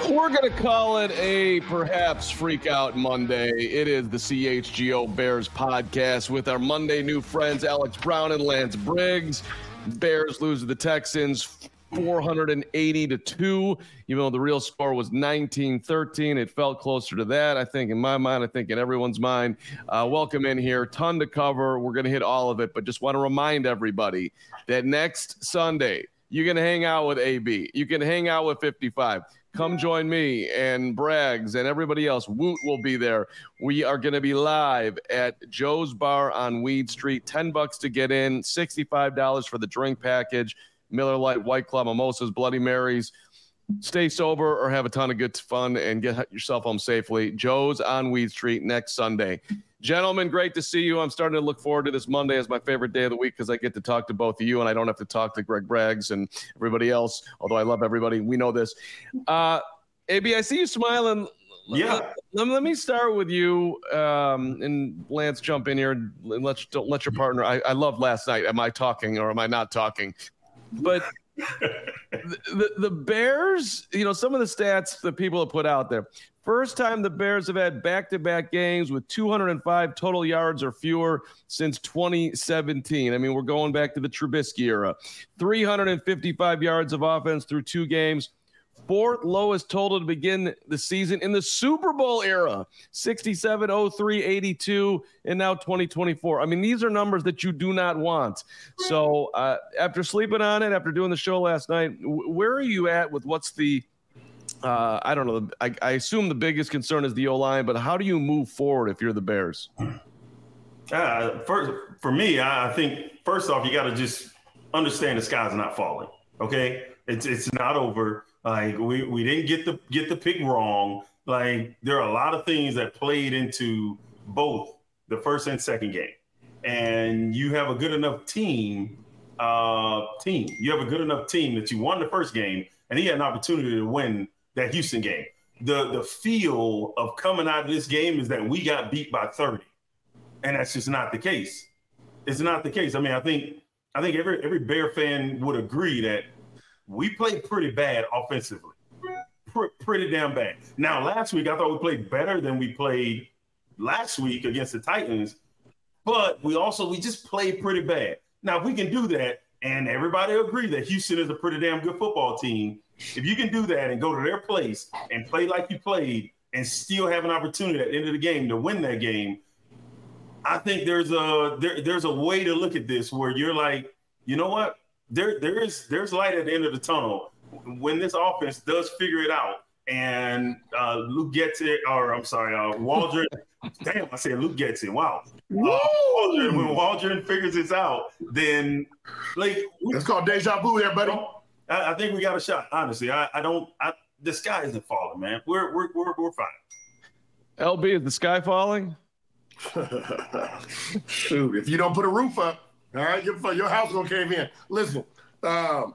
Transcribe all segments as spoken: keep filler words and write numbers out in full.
We're going to call it a perhaps freak out Monday. It is the C H G O Bears podcast with our Monday new friends, Alex Brown and Lance Briggs. Bears lose to the Texans four hundred eighty to two, even though the real score was nineteen thirteen. It felt closer to that, I think, in my mind. I think in everyone's mind. Uh, welcome in here. Ton to cover. We're going to hit all of it, but just want to remind everybody that next Sunday, you're going to hang out with A B. You can hang out with fifty-five. Come join me and Braggs and everybody else. Woot will be there. We are going to be live at Joe's Bar on Weed Street. ten bucks to get in, sixty-five dollars for the drink package. Miller Lite, White Claw, mimosas, Bloody Marys. Stay sober or have a ton of good fun and get yourself home safely. Joe's on Weed Street next Sunday. Gentlemen, great to see you. I'm starting to look forward to this Monday as my favorite day of the week because I get to talk to both of you and I don't have to talk to Greg Braggs and everybody else, although I love everybody. We know this. Uh, A B, I see you smiling. Yeah. Let, let me start with you, um, and Lance, jump in here and let, don't let your partner. I, I love last night. Am I talking or am I not talking? But the, the, the Bears, you know, some of the stats that people have put out there. First time the Bears have had back-to-back games with two hundred five total yards or fewer since twenty seventeen. I mean, we're going back to the Trubisky era. three hundred fifty-five yards of offense through two games. Fourth lowest total to begin the season in the Super Bowl era. sixty-seven, oh three, eighty-two, and now twenty twenty-four. I mean, these are numbers that you do not want. So uh, after sleeping on it, after doing the show last night, w- where are you at with what's the Uh, I don't know. I, I assume the biggest concern is the O-line, but how do you move forward if you're the Bears? Uh, first, for me, I think first off, you got to just understand the sky's not falling. Okay, it's it's not over. Like we, we didn't get the get the pick wrong. Like there are a lot of things that played into both the first and second game, and you have a good enough team. Uh, team, you have a good enough team that you won the first game, and he had an opportunity to win that Houston game. The the feel of coming out of this game is that we got beat by thirty. And that's just not the case. It's not the case. I mean, I think I think every every Bear fan would agree that we played pretty bad offensively. Pr- pretty damn bad. Now, last week I thought we played better than we played last week against the Titans, but we also we just played pretty bad. Now, if we can do that, and everybody agree that Houston is a pretty damn good football team, if you can do that and go to their place and play like you played and still have an opportunity at the end of the game to win that game, I think there's a there, there's a way to look at this where you're like, you know what? There there is there's light at the end of the tunnel when this offense does figure it out. And uh, Luke gets it, or I'm sorry, uh, Waldron. Damn, I said Luke gets it. Wow. Uh, Waldron, when Waldron figures this out, then like it's called deja vu there, buddy. I, I think we got a shot. Honestly, I, I don't. I, the sky isn't falling, man. We're we're we're we're fine. L B, is the sky falling? Shoot, if you don't put a roof up, all right, your your house gonna cave in. Listen, um,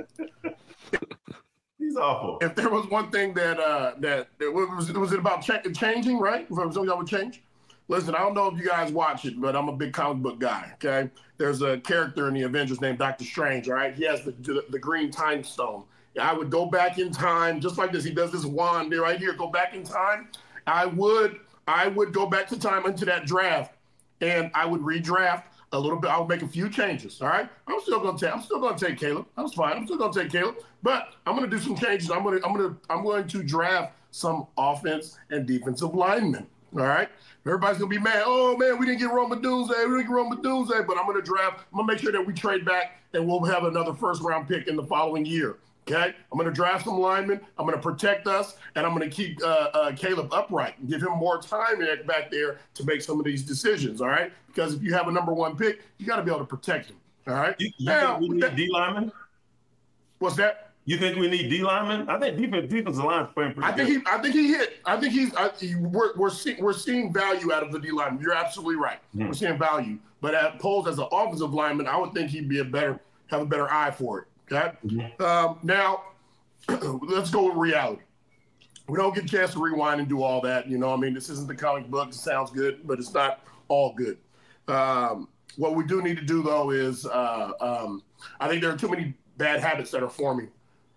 he's awful. If there was one thing that uh, that, that was was it about check, changing, right? If some of y'all would change. Listen, I don't know if you guys watch it, but I'm a big comic book guy. Okay, there's a character in the Avengers named Doctor Strange. All right, he has the the, the green time stone. I would go back in time just like this. He does this wand there right here. Go back in time. I would. I would go back to time into that draft, and I would redraft a little bit. I would make a few changes. All right, I'm still gonna take. I'm still gonna take Caleb. That's fine. I'm still gonna take Caleb, but I'm gonna do some changes. I'm gonna. I'm gonna. I'm going to draft some offense and defensive linemen. All right, everybody's gonna be mad. Oh man, we didn't get Roma Doomsday. We didn't get Roma Doomsday, but I'm gonna draft. I'm gonna make sure that we trade back, and we'll have another first round pick in the following year. Okay, I'm going to draft some linemen. I'm going to protect us, and I'm going to keep uh, uh, Caleb upright and give him more time back there to make some of these decisions. All right, because if you have a number one pick, you got to be able to protect him. All right. You, you now, think we need D linemen? What's that? You think we need D linemen? I think defense defensive line's playing pretty I think good. he. I think he hit. I think he's. I, he, we're we're, see, we're seeing value out of the D lineman. You're absolutely right. Mm. We're seeing value, but at Poles as an offensive lineman, I would think he'd be a better have a better eye for it. Okay. Mm-hmm. Um, now, let's go with reality. We don't get a chance to rewind and do all that. You know, I mean, this isn't the comic book. It sounds good, but it's not all good. Um, what we do need to do, though, is uh, um, I think there are too many bad habits that are forming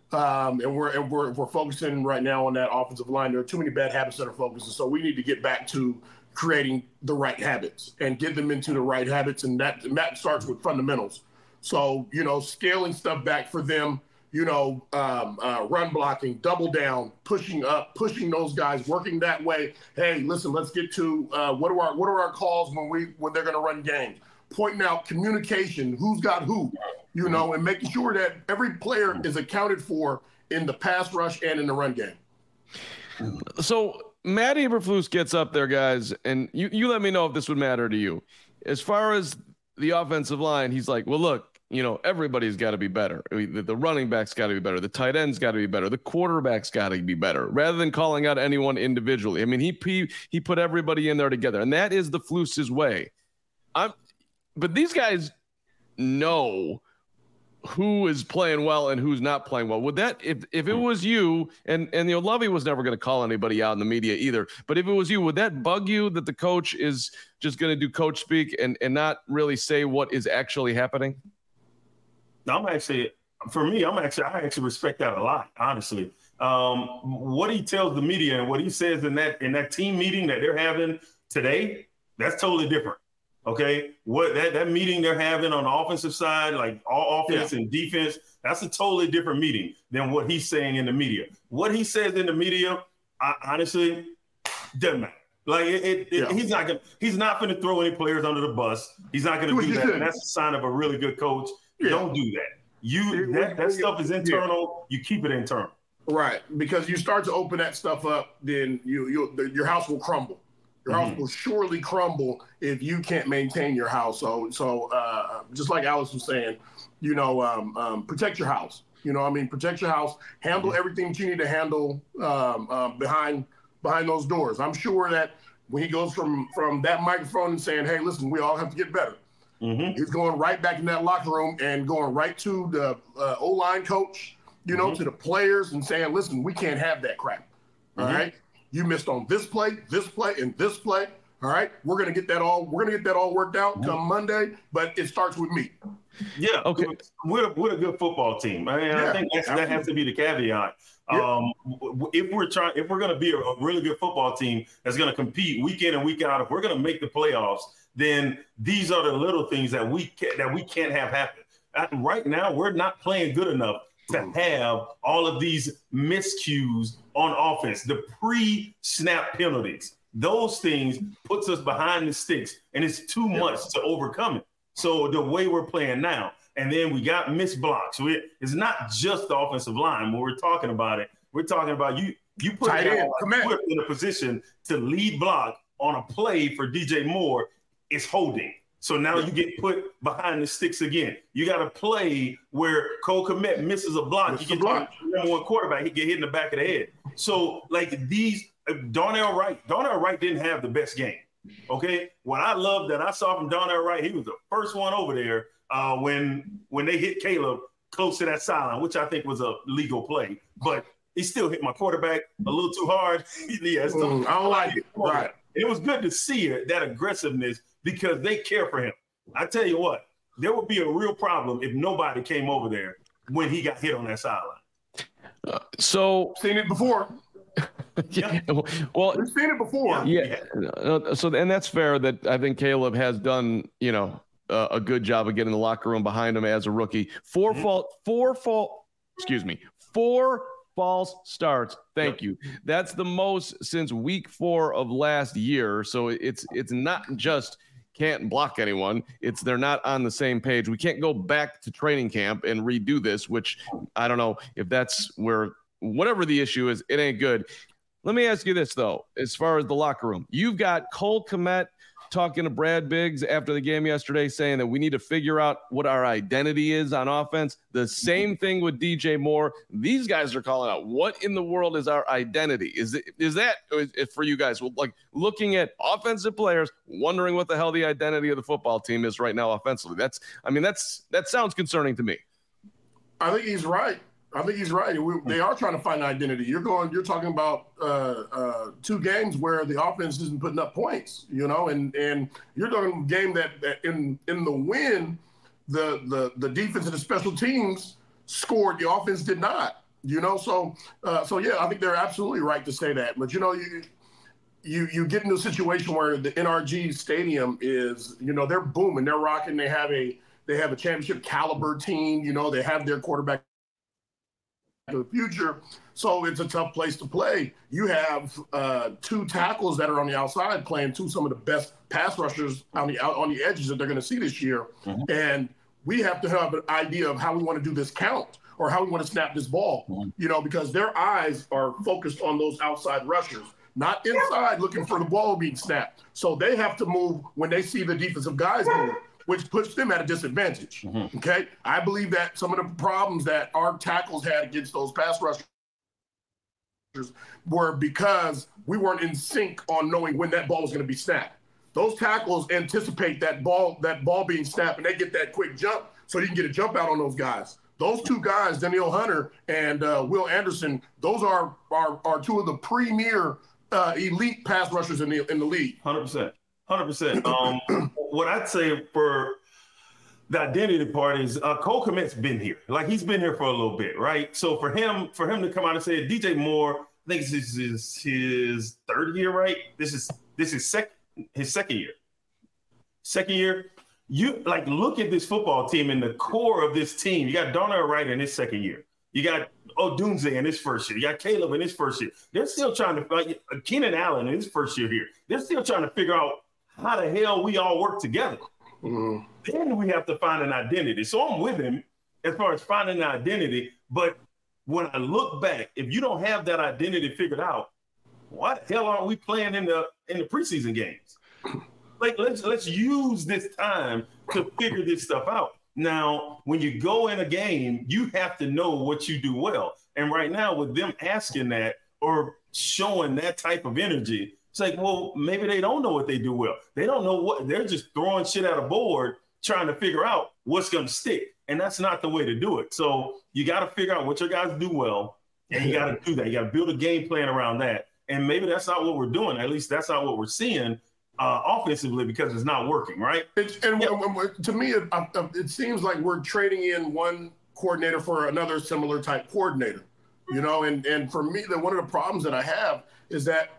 Um, and we're and we're we're focusing right now on that offensive line. There are too many bad habits that are focused, so we need to get back to creating the right habits and get them into the right habits, and that and that starts with fundamentals. So you know, scaling stuff back for them. You know, um, uh, run blocking, double down, pushing up, pushing those guys, working that way. Hey, listen, let's get to uh, what are our what are our calls when we when they're going to run games. Pointing out communication, who's got who, you know, and making sure that every player is accounted for in the pass rush and in the run game. So Matt Eberflus gets up there, guys, and you, you let me know if this would matter to you. As far as the offensive line, he's like, well, look, you know, everybody's got to be better. I mean, the, the running back's got to be better. The tight end's got to be better. The quarterback's got to be better, rather than calling out anyone individually. I mean, he, he, he put everybody in there together, and that is the Flus's way. I'm, But these guys know who is playing well and who's not playing well. Would that, if if it was you, and and you know, Lovie was never going to call anybody out in the media either, but if it was you, would that bug you that the coach is just going to do coach speak and and not really say what is actually happening? I'm actually, for me, I'm actually, I actually respect that a lot, honestly. Um, what he tells the media and what he says in that in that team meeting that they're having today, that's totally different. Okay, what that, that meeting they're having on the offensive side, like all offense yeah. and defense, that's a totally different meeting than what he's saying in the media. What he says in the media, I, honestly, doesn't matter. Like it, it, yeah. it, he's not gonna, he's not going to throw any players under the bus. He's not going to do that. And that's a sign of a really good coach. Yeah. Don't do that. You that, that stuff is internal. Yeah. You keep it internal. Right, because you start to open that stuff up, then you you your house will crumble. Your house mm-hmm. will surely crumble if you can't maintain your house. So, so uh, just like Alex was saying, you know, um, um, protect your house. You know, I mean, protect your house. Handle mm-hmm. everything that you need to handle um, uh, behind behind those doors. I'm sure that when he goes from from that microphone and saying, "Hey, listen, we all have to get better," mm-hmm. he's going right back in that locker room and going right to the uh, O-line coach, you know, mm-hmm. to the players and saying, "Listen, we can't have that crap." Mm-hmm. All right. You missed on this play, this play, and this play. All right, we're gonna get that all. We're gonna get that all worked out come Monday, but it starts with me. Yeah, okay. We're we're a good football team. I mean, yeah, I think that's, that has to be the caveat. Yeah. Um, if we're trying, if we're gonna be a, a really good football team that's gonna compete week in and week out, if we're gonna make the playoffs, then these are the little things that we can, that we can't have happen. Right now, we're not playing good enough to have all of these miscues on offense, the pre-snap penalties. Those things puts us behind the sticks, and it's too much to overcome it. So the way we're playing now, and then we got missed blocks. We, it's not just the offensive line. When we're talking about it, we're talking about you you put Tight end, in a position to lead block on a play for D J Moore. It's holding. So now you get put behind the sticks again. You got to play where Cole Kmet misses a block. Miss you get block. number one quarterback. He get hit in the back of the head. So like these, Darnell Wright, Darnell Wright didn't have the best game. Okay, what I love that I saw from Darnell Wright, he was the first one over there uh, when when they hit Caleb close to that sideline, which I think was a legal play, but he still hit my quarterback a little too hard. yeah, so mm, I don't like it. Right. It was good to see it, that aggressiveness, because they care for him. I tell you what, there would be a real problem if nobody came over there when he got hit on that sideline. Uh, so seen it before. yeah. Well, we've seen it before. Yeah. Uh, so, and that's fair. That I think Caleb has done, you know, uh, a good job of getting the locker room behind him as a rookie. Four mm-hmm. fault, four fault. Excuse me, four false starts. Thank yep. you. That's the most since week four of last year. So it's it's not just can't block anyone. It's they're not on the same page. We can't go back to training camp and redo this, which I don't know if that's where whatever the issue is, it ain't good. Let me ask you this, though, as far as the locker room. You've got Cole Kmet talking to Brad Biggs after the game yesterday saying that we need to figure out what our identity is on offense. The same thing with D J Moore. These guys are calling out, what in the world is our identity? Is it, is that is for you guys, like looking at offensive players, wondering what the hell the identity of the football team is right now offensively? That's, I mean, that's that sounds concerning to me. I think he's right. I think he's right. We, they are trying to find identity. You're going. You're talking about uh, uh, two games where the offense isn't putting up points. You know, and and you're talking a game that, that in in the win, the the the defense and the special teams scored. The offense did not. You know, so uh, so yeah, I think they're absolutely right to say that. But you know, you you you get into a situation where the N R G Stadium is, you know, they're booming, they're rocking. They have a they have a championship caliber team. You know, they have their quarterback of the future. So it's a tough place to play. You have uh, two tackles that are on the outside playing two some of the best pass rushers on the out on the edges that they're going to see this year, mm-hmm. and we have to have an idea of how we want to do this count or how we want to snap this ball, mm-hmm. you know, because their eyes are focused on those outside rushers, not inside looking for the ball being snapped. So they have to move when they see the defensive guys move, which puts them at a disadvantage. Mm-hmm. Okay. I believe that some of the problems that our tackles had against those pass rushers were because we weren't in sync on knowing when that ball was going to be snapped. Those tackles anticipate that ball, that ball being snapped, and they get that quick jump so you can get a jump out on those guys. Those two guys, Danielle Hunter and uh, Will Anderson, those are, are are two of the premier uh, elite pass rushers in the in the league. one hundred percent. one hundred percent. Um, what I'd say for the identity part is uh, Cole Kmet's been here. Like, he's been here for a little bit, right? So for him, for him to come out and say, D J Moore, I think this is his, his third year, right? This is this is second. His second year. Second year, you like look at this football team and the core of this team. You got Darnell Wright in his second year. You got Odunze in his first year. You got Caleb in his first year. They're still trying to like Keenan Allen in his first year here. They're still trying to figure out how the hell we all work together. Mm-hmm. Then we have to find an identity. So I'm with him as far as finding an identity. But when I look back, if you don't have that identity figured out, why the hell aren't we playing in the in the preseason games? Like, let's let's use this time to figure this stuff out. Now, when you go in a game, you have to know what you do well. And right now, with them asking that or showing that type of energy, it's like, well, maybe they don't know what they do well. They don't know what they're just throwing shit at a board, trying to figure out what's going to stick. And that's not the way to do it. So you got to figure out what your guys do well, and you got to do that. You got to build a game plan around that. And maybe that's not what we're doing. At least that's not what we're seeing uh, offensively because it's not working, right? It's, and yeah. to me, it, it seems like we're trading in one coordinator for another similar type coordinator, you know. And and for me, the, one of the problems that I have is that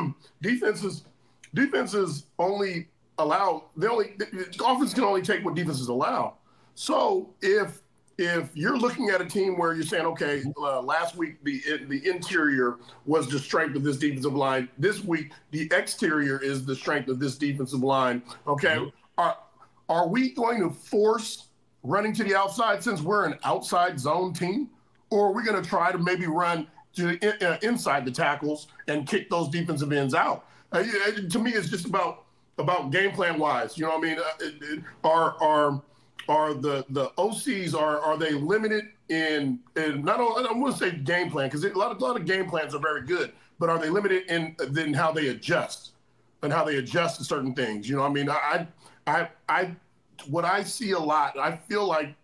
defenses defenses only allow they only the offense can only take what defenses allow. So if If you're looking at a team where you're saying, okay, uh, last week the the interior was the strength of this defensive line. This week the exterior is the strength of this defensive line. Okay, mm-hmm. are are we going to force running to the outside since we're an outside zone team, or are we going to try to maybe run to uh, inside the tackles and kick those defensive ends out? Uh, to me, it's just about about game plan wise. You know what I mean? Uh, it, it, are are Are the, the O Cs, are are they limited in, in not only, I wouldn't say game plan, because a lot of a lot of game plans are very good, but are they limited in then how they adjust and how they adjust to certain things? You know what I mean? I I I what I see a lot, I feel like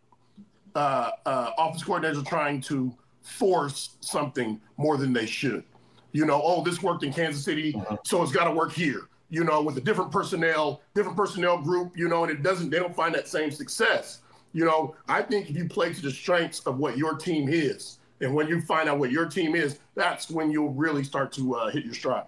uh, uh, office coordinators are trying to force something more than they should. You know, oh, this worked in Kansas City, uh-huh. so it's got to work here. You know, with a different personnel, different personnel group, you know, and it doesn't, they don't find that same success. You know, I think if you play to the strengths of what your team is, and when you find out what your team is, that's when you'll really start to uh, hit your stride.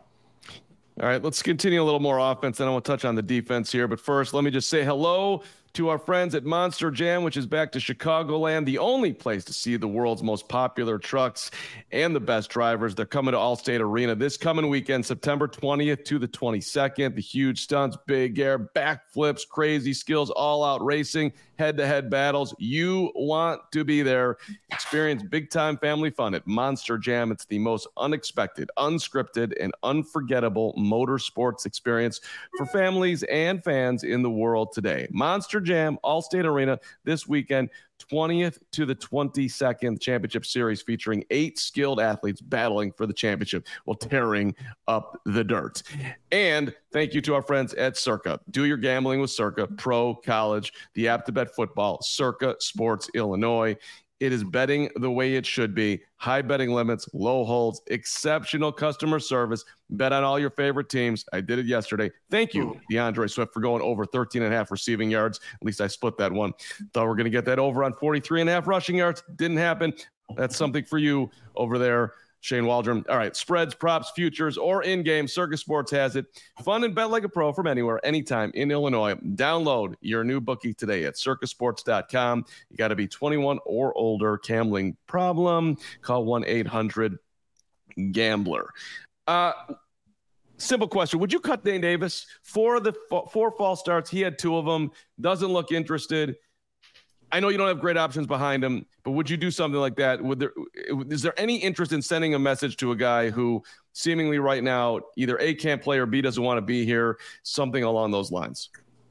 All right, let's continue a little more offense, and I want to touch on the defense here. But first, let me just say hello to our friends at Monster Jam, which is back to Chicagoland, the only place to see the world's most popular trucks and the best drivers. They're coming to Allstate Arena this coming weekend, September twentieth to the twenty-second. The huge stunts, big air, backflips, crazy skills, all-out racing, head-to-head battles. You want to be there. Experience big-time family fun at Monster Jam. It's the most unexpected, unscripted, and unforgettable motorsports experience for families and fans in the world today. Monster Jam, Allstate Arena this weekend, twentieth to the twenty-second. Championship Series featuring eight skilled athletes battling for the championship while tearing up the dirt. And thank you to our friends at Circa. Do your gambling with Circa, pro, college, the app to bet football, Circa Sports Illinois. It is betting the way it should be. High betting limits, low holds, exceptional customer service. Bet on all your favorite teams. I did it yesterday. Thank you, DeAndre Swift, for going over thirteen and a half receiving yards. At least I split that one. Thought we were going to get that over on forty-three and a half rushing yards. Didn't happen. That's something for you over there, Shane Waldron. All right, spreads, props, futures, or in-game, Circus Sports has it. Fun and bet like a pro from anywhere, anytime in Illinois. Download your new bookie today at circus sports dot com. You got to be twenty-one or older. Gambling problem? Call one eight hundred gambler. Uh, simple question. Would you cut Dane Davis? For the four false starts, he had two of them. Doesn't look interested. I know you don't have great options behind him, but would you do something like that? Would there, is there any interest in sending a message to a guy who seemingly right now either A, can't play, or B, doesn't want to be here, something along those lines?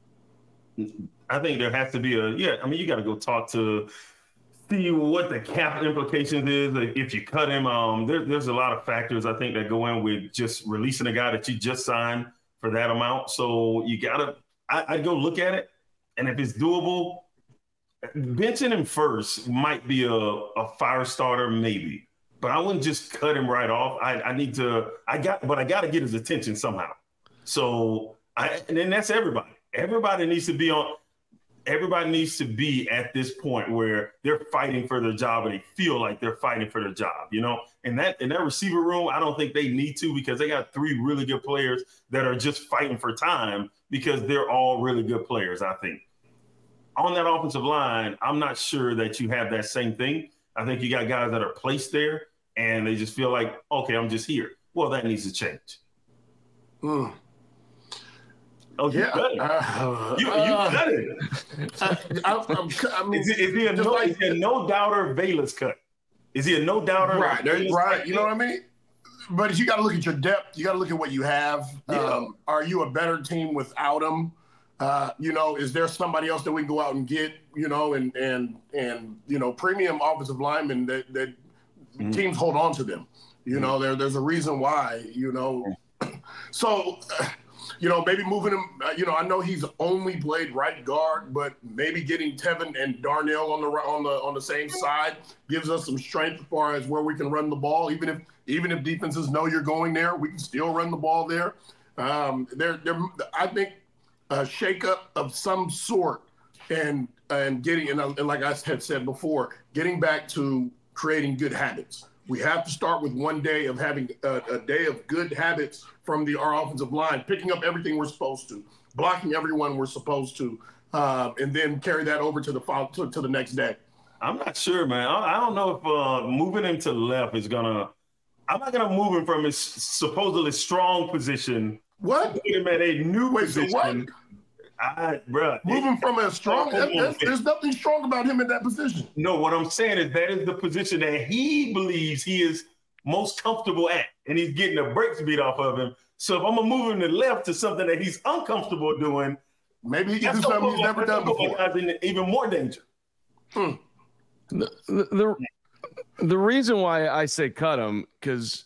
I think there has to be a, yeah, I mean, you got to go talk to, see what the cap implications is. Like if you cut him, um, there, there's a lot of factors, I think, that go in with just releasing a guy that you just signed for that amount. So you got to, I'd go look at it. And if it's doable, benching him first might be a, a fire starter, maybe, but I wouldn't just cut him right off. I, I need to, I got, but I got to get his attention somehow. So I, and then that's everybody. Everybody needs to be on, everybody needs to be at this point where they're fighting for their job and they feel like they're fighting for their job, you know, and that, in that receiver room, I don't think they need to, because they got three really good players that are just fighting for time because they're all really good players, I think. On that offensive line, I'm not sure that you have that same thing. I think you got guys that are placed there and they just feel like, okay, I'm just here. Well, that needs to change. Mm. Oh, you yeah. cut it. Uh, you, you uh, cut it. I, I, I'm, I mean, is, he, is he a no, like, is he a no doubter Velus cut? Is he a no doubter? Right, right. You know what I mean? But you got to look at your depth. You got to look at what you have. Yeah. Um, are you a better team without him? Uh, you know, is there somebody else that we can go out and get, you know, and, and, and, you know, premium offensive linemen that, that mm-hmm. teams hold on to them, you mm-hmm. know, there, there's a reason why, you know, so, uh, you know, maybe moving him, uh, you know, I know he's only played right guard, but maybe getting Tevin and Darnell on the, on the, on the same side gives us some strength as far as where we can run the ball. Even if, even if defenses know you're going there, we can still run the ball there. Um, there, there, I think, a shakeup of some sort, and and getting and, and like I had said before, getting back to creating good habits. We have to start with one day of having a, a day of good habits from the our offensive line, picking up everything we're supposed to, blocking everyone we're supposed to, uh, and then carry that over to the to, to the next day. I'm not sure, man. I, I don't know if uh, moving him to left is gonna. I'm not gonna move him from his supposedly strong position. What? Put him at a new Wait, position. So what? I, bro, Moving from a strong, there's, there's nothing strong about him in that position. No, what I'm saying is that is the position that he believes he is most comfortable at, and he's getting the brakes beat off of him. So if I'm gonna move him to left to something that he's uncomfortable doing, maybe he can do something he's never done before. Guys in even more danger. Hmm. The, the the reason why I say cut him, because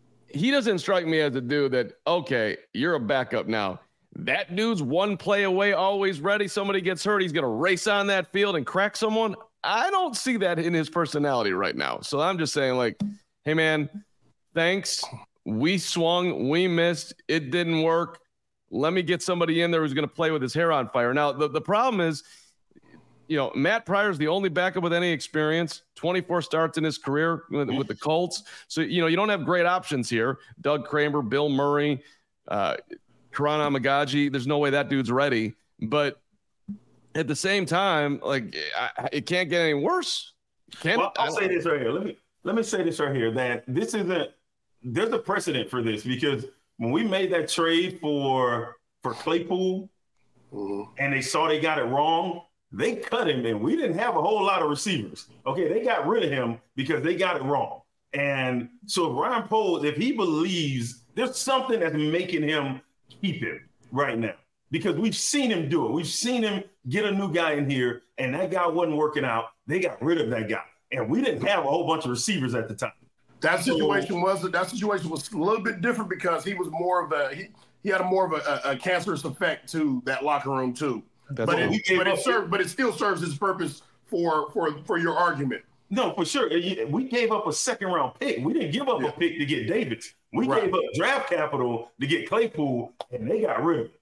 he doesn't strike me as a dude that, okay, you're a backup now. That dude's one play away, always ready. Somebody gets hurt, he's going to race on that field and crack someone. I don't see that in his personality right now. So I'm just saying, like, hey, man, thanks. We swung, we missed, it didn't work. Let me get somebody in there who's going to play with his hair on fire. Now, the, the problem is, you know, Matt Pryor's the only backup with any experience, twenty-four starts in his career with, with the Colts. So, you know, you don't have great options here. Doug Kramer, Bill Murray, uh, Karan Amagaji, there's no way that dude's ready. But at the same time, like, I, it can't get any worse. Can't, well, I'll say this right here. Let me let me say this right here, that this isn't – there's a precedent for this, because when we made that trade for for Claypool mm-hmm. and they saw they got it wrong, they cut him, and we didn't have a whole lot of receivers. Okay, they got rid of him because they got it wrong. And so if Ryan Poles, if he believes there's something that's making him – keep him right now, because we've seen him do it. We've seen him get a new guy in here, and that guy wasn't working out. They got rid of that guy, and we didn't have a whole bunch of receivers at the time. That situation so, was that situation was a little bit different because he was more of a he, he had a more of a, a, a cancerous effect to that locker room too. But it, but it served, but it still serves its purpose for for for your argument. No, for sure. We gave up a second round pick. We didn't give up yeah. a pick to get Davis. We right. gave up draft capital to get Claypool, and they got rid of it.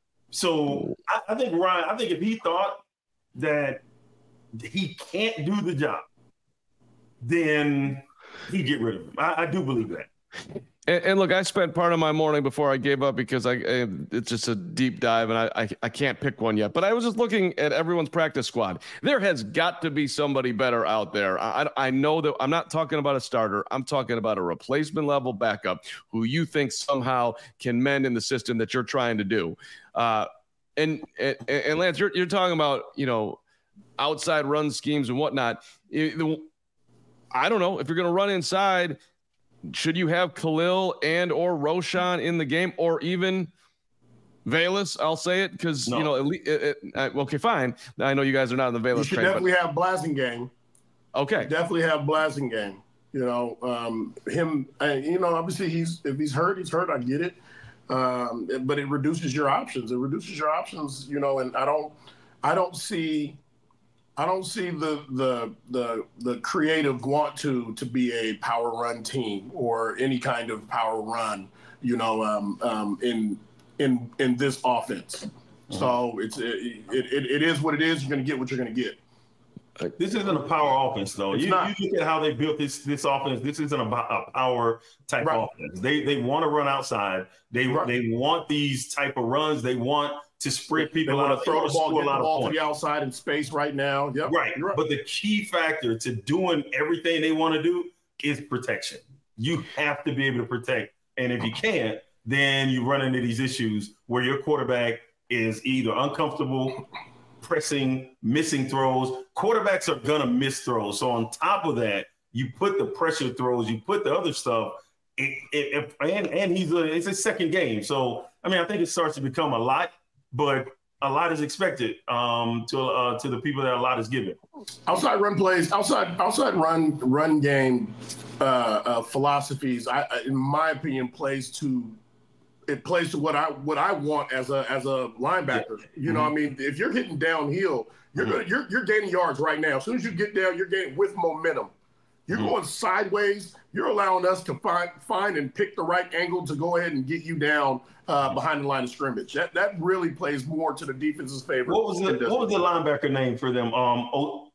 So I, I think Ryan, I think if he thought that he can't do the job, then he get rid of him. I, I do believe that. And, and look, I spent part of my morning before I gave up because I, I it's just a deep dive and I, I I can't pick one yet. But I was just looking at everyone's practice squad. There has got to be somebody better out there. I, I know that I'm not talking about a starter. I'm talking about a replacement level backup who you think somehow can mend in the system that you're trying to do. Uh, and, and and Lance, you're you're talking about, you know, outside run schemes and whatnot. It, I don't know if you're going to run inside. Should you have Khalil and or Roschon in the game, or even Velus? I'll say it because no. you know. At least, it, it, uh, okay, fine. I know you guys are not in the Velus. You should train, definitely but... have Blasingame. Okay, you definitely have Blasingame. You know um, him. And, you know, obviously he's if he's hurt, he's hurt. I get it, um, but it reduces your options. It reduces your options. You know, and I don't, I don't see. I don't see the the the the creative want to to be a power run team or any kind of power run, you know, um, um, in in in this offense. Mm-hmm. So it's it, it it is what it is. You're going to get what you're going to get. This isn't a power offense, though. You, you look at how they built this this offense. This isn't a, a power type right. offense. They they want to run outside. They right. they want these type of runs. They want to spread people out, throw the ball, get the ball to the outside in space right now. Yep. Right. right. But the key factor to doing everything they want to do is protection. You have to be able to protect. And if you can't, then you run into these issues where your quarterback is either uncomfortable, pressing, missing throws. Quarterbacks are going to miss throws. So on top of that, you put the pressure throws, you put the other stuff. It, it, it, and, and he's a, it's his second game. So, I mean, I think it starts to become a lot. But a lot is expected um, to uh, to the people that a lot is given. Outside run plays, outside outside run run game uh, uh, philosophies. I, in my opinion, plays to it plays to what I what I want as a as a linebacker. Yeah. You know, mm-hmm. what I mean, if you're hitting downhill, you're mm-hmm. gonna you're you're gaining yards right now. As soon as you get down, you're gaining with momentum. You're mm-hmm. going sideways. You're allowing us to find find and pick the right angle to go ahead and get you down uh, behind the line of scrimmage. That that really plays more to the defense's favor. What was the what was the linebacker name for them? Um, O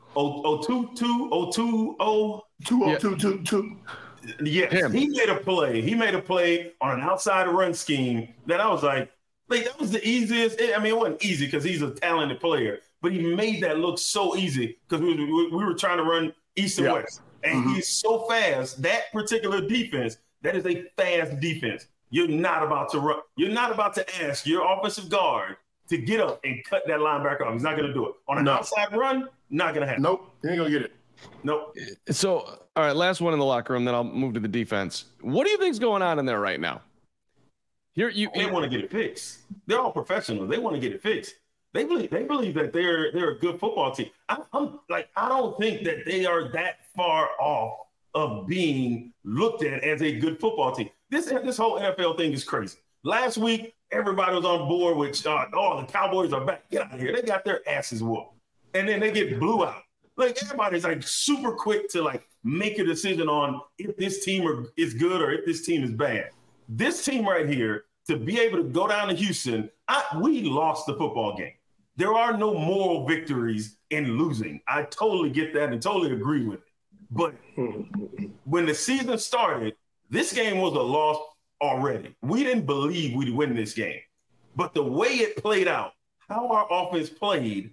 O two two O two O two O two two two. Yes, Him. he made a play. He made a play on an outside run scheme that I was like, like that was the easiest. I mean, it wasn't easy because he's a talented player, but he made that look so easy because we, we we were trying to run east and yeah. west. And mm-hmm. he's so fast. That particular defense, that is a fast defense. You're not about to run. You're not about to ask your offensive guard to get up and cut that linebacker off. He's not going to do it. On an no. outside run, not going to happen. Nope. He ain't going to get it. Nope. So, all right, last one in the locker room, then I'll move to the defense. What do you think's going on in there right now? Here, you, They want to get it fixed. They're all professionals. They want to get it fixed. They believe they believe that they're they're a good football team. I, I'm like I don't think that they are that far off of being looked at as a good football team. This this whole N F L thing is crazy. Last week, everybody was on board with uh, oh the Cowboys are back. Get out of here. They got their asses whooped, and then they get blew out. Like everybody's like super quick to like make a decision on if this team are, is good or if this team is bad. This team right here to be able to go down to Houston, I, we lost the football game. There are no moral victories in losing. I totally get that and totally agree with it. But when the season started, this game was a loss already. We didn't believe we'd win this game. But the way it played out, how our offense played,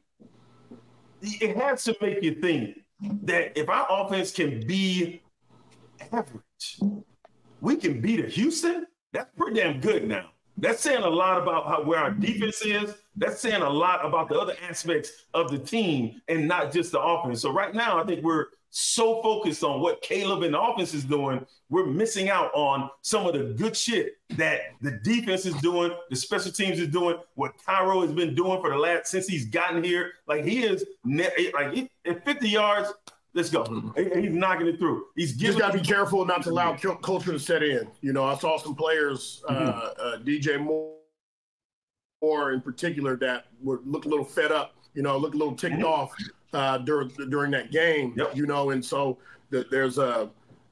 it has to make you think that if our offense can be average, we can beat a Houston. That's pretty damn good now. That's saying a lot about how, where our defense is. That's saying a lot about the other aspects of the team and not just the offense. So right now, I think we're so focused on what Caleb and the offense is doing, we're missing out on some of the good shit that the defense is doing, the special teams is doing, what Cairo has been doing for the last since he's gotten here. Like he is like at fifty yards. Let's go. He's knocking it through. He's just got to be careful not to allow culture to set in. You know, I saw some players, mm-hmm. uh, uh, D J Moore in particular, that would look a little fed up. You know, look a little ticked mm-hmm. off uh, during during that game. Yep. You know, and so the, there's a,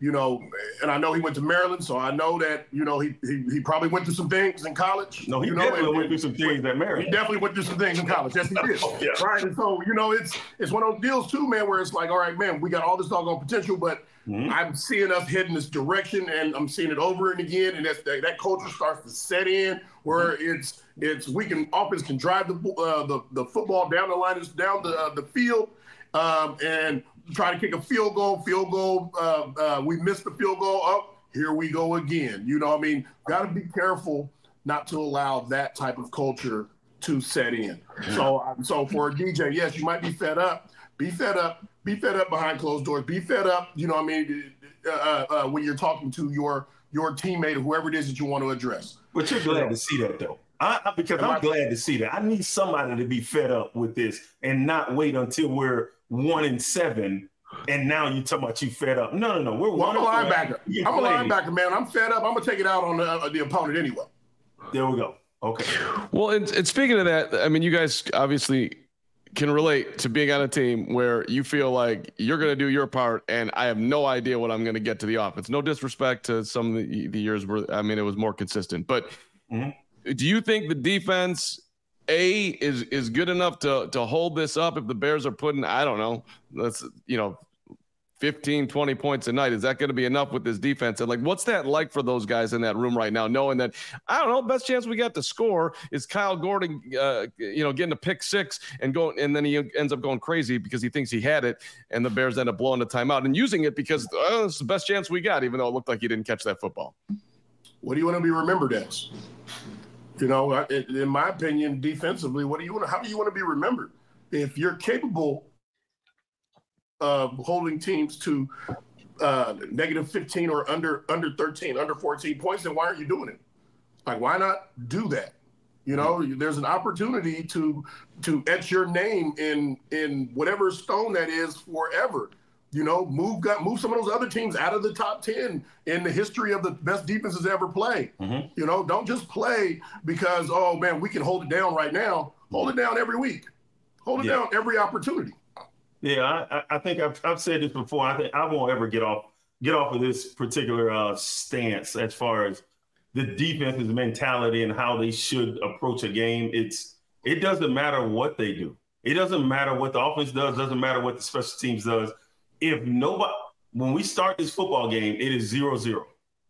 you know, and I know he went to Maryland, so I know that, you know, he he, he probably went through some things in college. No, he you know, definitely and, went through some things at Maryland. He definitely went through some things in college. Yes, he did. yeah. Right. And so, you know, it's it's one of those deals too, man, where it's like, all right, man, we got all this doggone potential, but mm-hmm. I'm seeing us heading this direction, and I'm seeing it over and again, and that's, that, that culture starts to set in where mm-hmm. it's it's we can offense can drive the uh, the the football down the line, down the uh, the field, um, and try to kick a field goal, field goal. Uh, uh, we missed the field goal. Oh, here we go again. You know what I mean? Got to be careful not to allow that type of culture to set in. So, um, so for a D J, yes, you might be fed up. Be fed up. Be fed up behind closed doors. Be fed up. You know what I mean? Uh, uh, when you're talking to your your teammate or whoever it is that you want to address. But you're glad to see that, though. I, I, because Am I'm I, glad to see that. I need somebody to be fed up with this and not wait until we're one and seven, and now you talking about you fed up. No, no, no. We're well, one. I'm a linebacker. I'm a linebacker, man. I'm fed up. I'm gonna take it out on the, uh, the opponent anyway. There we go. Okay. Well, and, and speaking of that, I mean, you guys obviously can relate to being on a team where you feel like you're going to do your part, and I have no idea what I'm going to get to the offense. No disrespect to some of the, the years where, I mean, it was more consistent. But mm-hmm. do you think the defense – A is is good enough to to hold this up if the Bears are putting, I don't know, let's, you know, fifteen, twenty points a night? Is that going to be enough with this defense? And like, what's that like for those guys in that room right now, knowing that, I don't know, best chance we got to score is Kyle Gordon, uh, you know, getting a pick six and going, and then he ends up going crazy because he thinks he had it, and the Bears end up blowing the timeout and using it because oh, it's the best chance we got, even though it looked like he didn't catch that football. What do you want to be remembered as? You know, in my opinion, defensively, what do you want? How do you want to be remembered? If you're capable of holding teams to uh, negative fifteen or under under thirteen, under fourteen points, then why aren't you doing it? Like, why not do that? You know, there's an opportunity to to etch your name in in whatever stone that is forever. You know, move got move some of those other teams out of the top ten in the history of the best defenses ever play. Mm-hmm. You know, don't just play because, oh, man, we can hold it down right now. Hold it down every week. Hold it yeah. down every opportunity. Yeah, I, I think I've, I've said this before. I think I won't ever get off get off of this particular uh, stance as far as the defense's mentality and how they should approach a game. It's it doesn't matter what they do. It doesn't matter what the offense does. Doesn't matter what the special teams does. If nobody, when we start this football game, it is zero zero.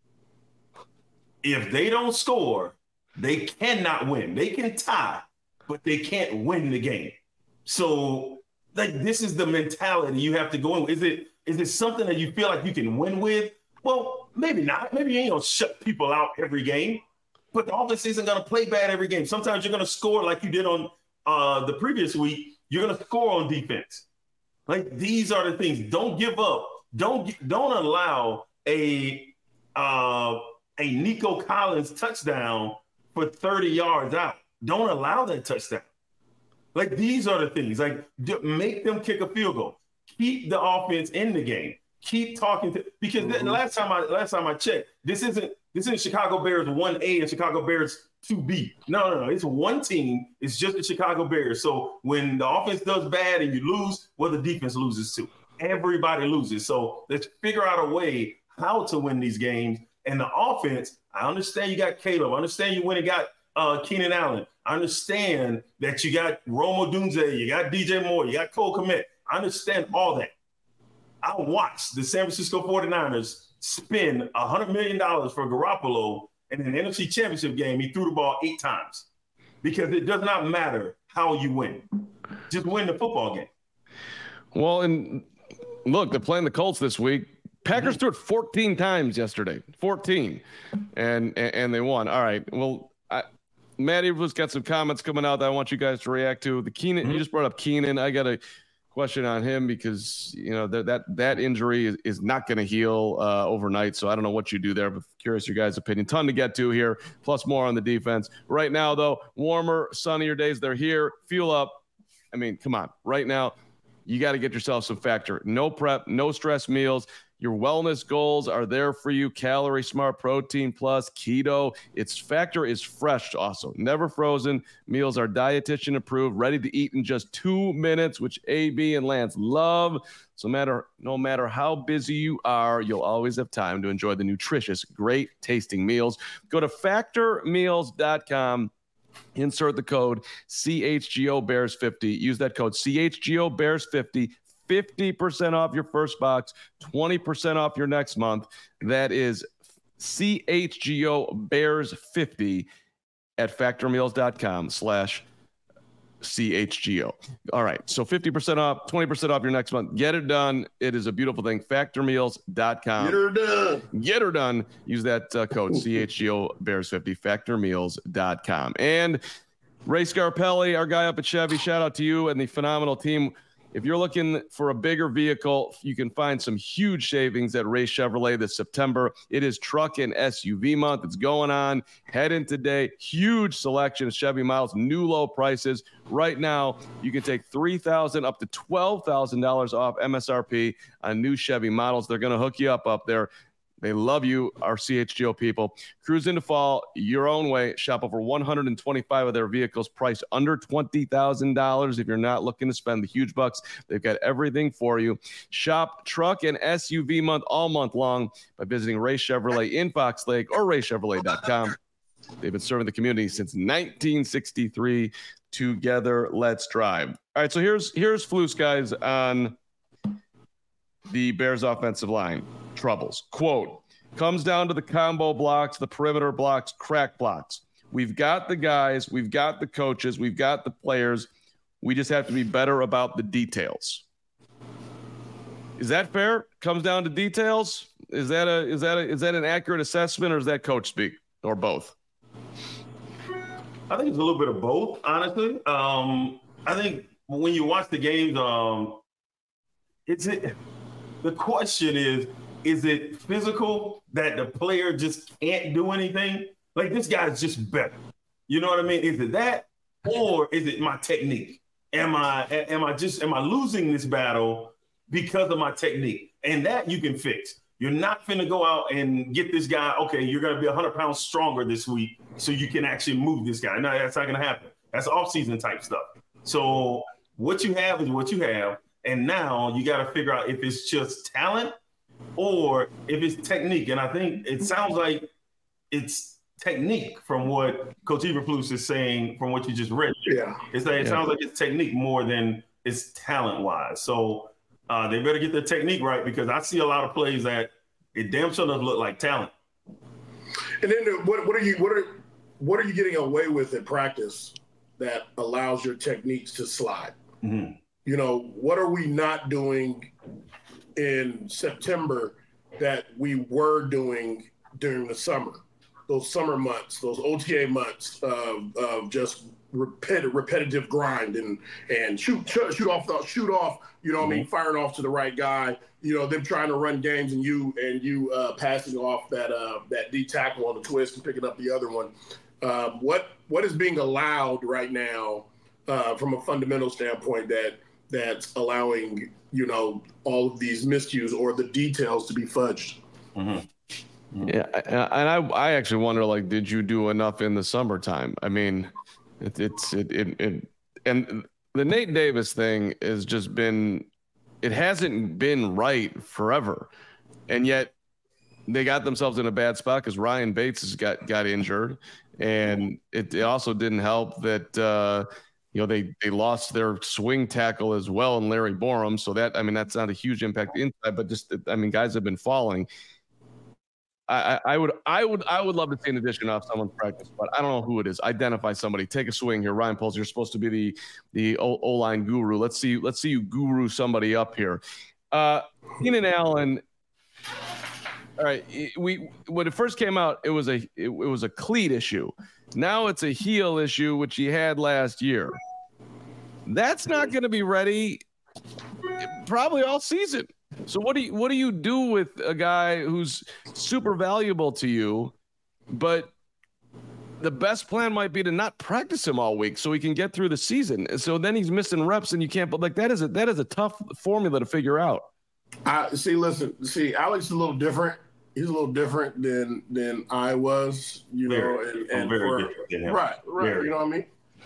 If they don't score, they cannot win. They can tie, but they can't win the game. So, like, this is the mentality you have to go in with. Is it is it something that you feel like you can win with? Well, maybe not. Maybe you ain't gonna shut people out every game, but the offense isn't gonna play bad every game. Sometimes you're gonna score like you did on uh, the previous week. You're gonna score on defense. Like, these are the things. Don't give up. Don't don't allow a uh, a Nico Collins touchdown for thirty yards out. Don't allow that touchdown. Like, these are the things. Like, make them kick a field goal. Keep the offense in the game. Keep talking to because mm-hmm. the last time I last time I checked, this isn't this isn't Chicago Bears one A and Chicago Bears two B. No, no, no. It's one team. It's just the Chicago Bears. So when the offense does bad and you lose, well, the defense loses too. Everybody loses. So let's figure out a way how to win these games. And the offense, I understand you got Caleb. I understand you went and got uh, Keenan Allen. I understand that you got Rome Odunze, you got D J Moore, you got Cole Kmet. I understand all that. I watched the San Francisco forty-niners spend one hundred million dollars for Garoppolo, and in the N F C Championship game, he threw the ball eight times because it does not matter how you win. Just win the football game. Well, and look, they're playing the Colts this week. Packers mm-hmm. threw it fourteen times yesterday, fourteen, and, and and they won. All right, well, I, Matty was got some comments coming out that I want you guys to react to. The Keenan, mm-hmm. you just brought up Keenan. I got a question on him because, you know, that that, that injury is, is not going to heal uh, overnight. So I don't know what you do there, but curious your guys' opinion. Ton to get to here, plus more on the defense. Right now, though, warmer, sunnier days. They're here. Fuel up. I mean, come on. Right now, you got to get yourself some Factor. No prep, no stress meals. Your wellness goals are there for you. Calorie Smart, Protein Plus, Keto. Its Factor is fresh also. Never frozen. Meals are dietitian approved, ready to eat in just two minutes, which A B and Lance love. So matter, no matter how busy you are, you'll always have time to enjoy the nutritious, great tasting meals. Go to factor meals dot com. Insert the code C H G O Bears fifty. Use that code C H G O Bears fifty. fifty percent off your first box, twenty percent off your next month. That is C H G O Bears fifty at factor meals dot com slash C H G O. All right. So fifty percent off, twenty percent off your next month. Get it done. It is a beautiful thing. factor meals dot com. Get her done. Get her done. Use that uh, code C H G O Bears fifty, factor meals dot com. And Ray Scarpelli, our guy up at Chevy, shout out to you and the phenomenal team. If you're looking for a bigger vehicle, you can find some huge savings at Ray Chevrolet this September. It is truck and S U V month. It's going on. Head in today. Huge selection of Chevy models, new low prices. Right now, you can take three thousand dollars up to twelve thousand dollars off M S R P on new Chevy models. They're going to hook you up up there. They love you, our C H G O people. Cruise into fall your own way. Shop over one hundred twenty-five of their vehicles priced under twenty thousand dollars. If you're not looking to spend the huge bucks, they've got everything for you. Shop truck and S U V month all month long by visiting Ray Chevrolet in Fox Lake or ray chevrolet dot com. They've been serving the community since nineteen sixty-three. Together, let's drive. All right, so here's here's Flus, guys, on the Bears offensive line troubles. Quote, comes down to the combo blocks, the perimeter blocks, crack blocks. We've got the guys, we've got the coaches, we've got the players. We just have to be better about the details. Is that fair? Comes down to details? Is that a is that a, is that an accurate assessment, or is that coach speak, or both? I think it's a little bit of both, honestly. Um, I think when you watch the games, um, it's it, the question is, is it physical that the player just can't do anything? Like, this guy's just better. You know what I mean? Is it that, or is it my technique? Am I am I just am I losing this battle because of my technique? And that you can fix. You're not finna go out and get this guy, okay, you're going to be one hundred pounds stronger this week so you can actually move this guy. No, that's not going to happen. That's off-season type stuff. So what you have is what you have, and now you got to figure out if it's just talent or if it's technique. And I think it sounds like it's technique from what Coach Eberflus is saying from what you just read. Yeah. It's like, it yeah. sounds like it's technique more than it's talent-wise. So Uh, they better get their technique right, because I see a lot of plays that it damn sure doesn't look like talent. And then what, what are you what are what are you getting away with in practice that allows your techniques to slide? Mm-hmm. You know, what are we not doing in September that we were doing during the summer? Those summer months, those O T A months of, of just repetitive, repetitive grind and and shoot shoot, shoot off the, shoot off. You know what mm-hmm. I mean? Firing off to the right guy. You know, them trying to run games and you and you uh, passing off that uh, that D tackle on the twist and picking up the other one. Um, what what is being allowed right now uh, from a fundamental standpoint that that's allowing, you know, all of these miscues or the details to be fudged? Mm-hmm. Yeah, and I I actually wonder, like, did you do enough in the summertime? I mean, it, it's it, it it and the Nate Davis thing has just been, it hasn't been right forever, and yet they got themselves in a bad spot because Ryan Bates has got got injured, and it, it also didn't help that uh, you know they they lost their swing tackle as well in Larry Borum, so that I mean that's not a huge impact inside, but just I mean guys have been falling. I, I would, I would, I would love to see an addition off someone's practice, but I don't know who it is. Identify somebody. Take a swing here, Ryan Poles. You're supposed to be the the O line guru. Let's see, let's see you guru somebody up here. Uh, Keenan Allen. All right, we when it first came out, it was a it, it was a cleat issue. Now it's a heel issue, which he had last year. That's not going to be ready probably all season. So what do you what do you do with a guy who's super valuable to you, but the best plan might be to not practice him all week so he can get through the season. So then he's missing reps and you can't, but like that is a, that is a tough formula to figure out. I see, listen, see, Alex is a little different. He's a little different than, than I was, you very, know, and, and very for, right, right. Very. You know what I mean?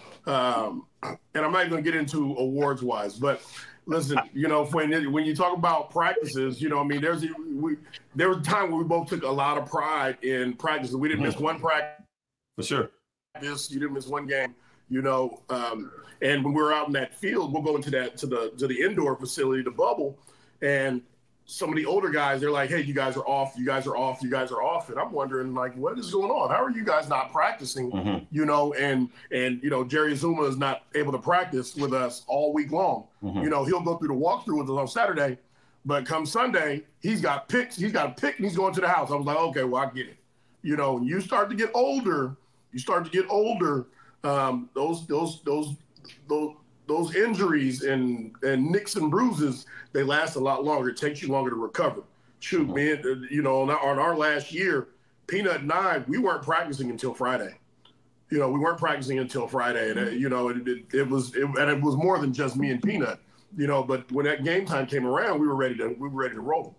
Um, and I'm not going to get into awards wise, but listen, you know, when, when you talk about practices, you know, I mean, there's, we, there was a time where we both took a lot of pride in practice. We didn't mm-hmm. miss one practice. For sure. This you didn't miss one game, you know. Um, and when we're out in that field, we'll go into that to the to the indoor facility, the bubble, and some of the older guys, they're like, "Hey, you guys are off. You guys are off. You guys are off." And I'm wondering, like, what is going on? How are you guys not practicing? Mm-hmm. You know, and and you know, Jerry Zuma is not able to practice with us all week long. Mm-hmm. You know, he'll go through the walkthrough with us on Saturday, but come Sunday, he's got picks. He's got a pick, and he's going to the house. I was like, okay, well, I get it. You know, when you start to get older. You start to get older, um, those those those those those injuries and and nicks and bruises, they last a lot longer. It takes you longer to recover. Shoot, man, you know, on our, on our last year, Peanut and I, we weren't practicing until Friday. You know, we weren't practicing until Friday, and uh, you know, it, it, it was it, and it was more than just me and Peanut. You know, but when that game time came around, we were ready to we were ready to roll.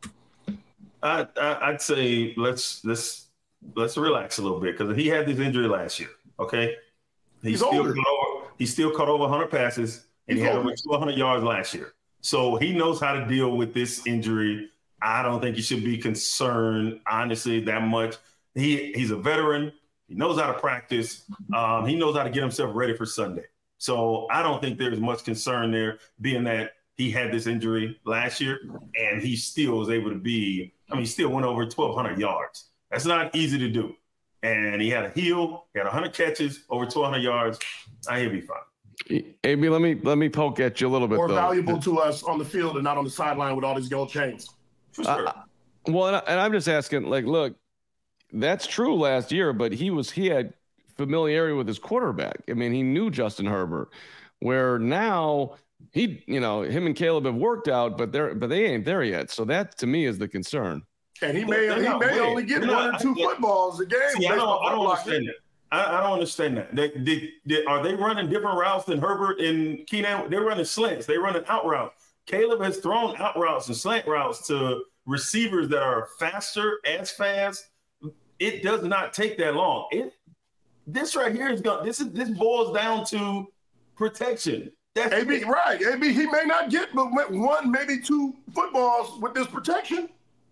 I, I I'd say let's let's. Let's relax a little bit because he had this injury last year. Okay, he he's still older. caught over, he still caught over one hundred passes, and he's he had older. over two hundred yards last year. So he knows how to deal with this injury. I don't think he should be concerned, honestly, that much. He he's a veteran. He knows how to practice. Um, he knows how to get himself ready for Sunday. So I don't think there's much concern there, being that he had this injury last year and he still was able to be. I mean, he still went over twelve hundred yards. That's not easy to do. And he had a heel, he had one hundred catches, over twelve hundred yards. I he'll be fine. A B, let me let me poke at you a little bit. More though. valuable to us on the field and not on the sideline with all these gold chains. For sure. Uh, well, and, I, and I'm just asking, like, look, that's true last year, but he was he had familiarity with his quarterback. I mean, he knew Justin Herbert. Where now he, you know, him and Caleb have worked out, but they're but they ain't there yet. So that to me is the concern. And he may he may only get one or two footballs a game. See, I don't, I don't understand that. I, I don't understand that. They, they, they, are they running different routes than Herbert and Keenan? They're running slants. They're running out routes. Caleb has thrown out routes and slant routes to receivers that are faster, as fast. It does not take that long. It this right here is going. This is this boils down to protection. That's A B, right? A B, he may not get but one, maybe two footballs with this protection.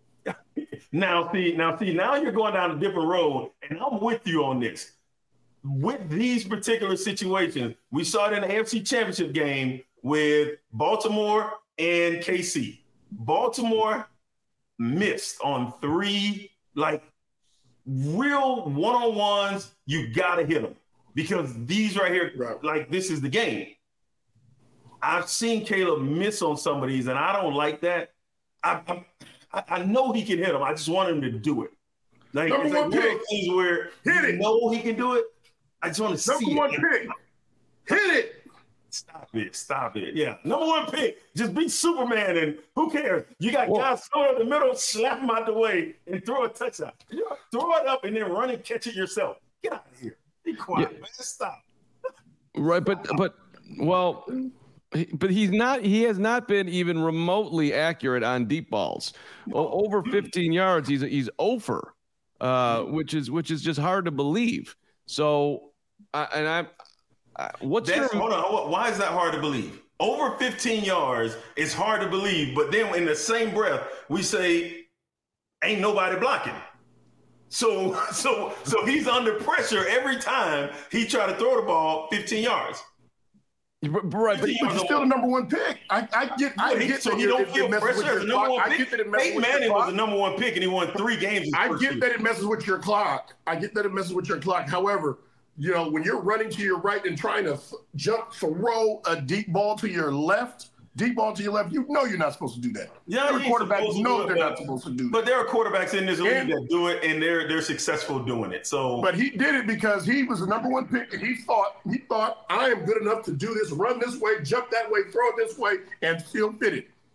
Now, see, now, see, now you're going down a different road, and I'm with you on this. With these particular situations, we saw it in the A F C Championship game with Baltimore and K C. Baltimore missed on three, like, real one-on-ones. You got to hit them because these right here, right. like, this is the game. I've seen Caleb miss on some of these, and I don't like that. I, I I know he can hit him. I just want him to do it. Like, Number it's like one one pick. of those things where hit you it. know he can do it. I just want to Number see one it. pick. Hit it. Stop it. Stop it. Yeah. Number one pick. Just be Superman, and who cares? You got Whoa. guys throw it in the middle, slap him out the way, and throw a touchdown. Throw it up and then run and catch it yourself. Get out of here. Be quiet, yeah. man. Stop. Right, but but well. But he's not. He has not been even remotely accurate on deep balls. O- over fifteen yards, he's he's over, uh, which is which is just hard to believe. So, uh, and I, I what's That's, your, hold on? Why is that hard to believe? Over fifteen yards is hard to believe, but then in the same breath we say, "Ain't nobody blocking." So so so he's under pressure every time he try to throw the ball fifteen yards. Right, but he's still the number one pick. I, I get, I he, get so that he don't feel pressure as the number one pick. I get that it messes Peyton with Manning your was the number one pick, and he won three games. I get year. that it messes with your clock. I get that it messes with your clock. However, you know, when you're running to your right and trying to f- jump, throw a deep ball to your left, deep ball to your left, you know you're not supposed to do that. Yeah, Every quarterbacks know it, they're but, not supposed to do that. But there are quarterbacks in this league and, that do it, and they're they're successful doing it. So, but he did it because he was the number one pick, and he thought he thought I am good enough to do this, run this way, jump that way, throw it this way, and still fit it.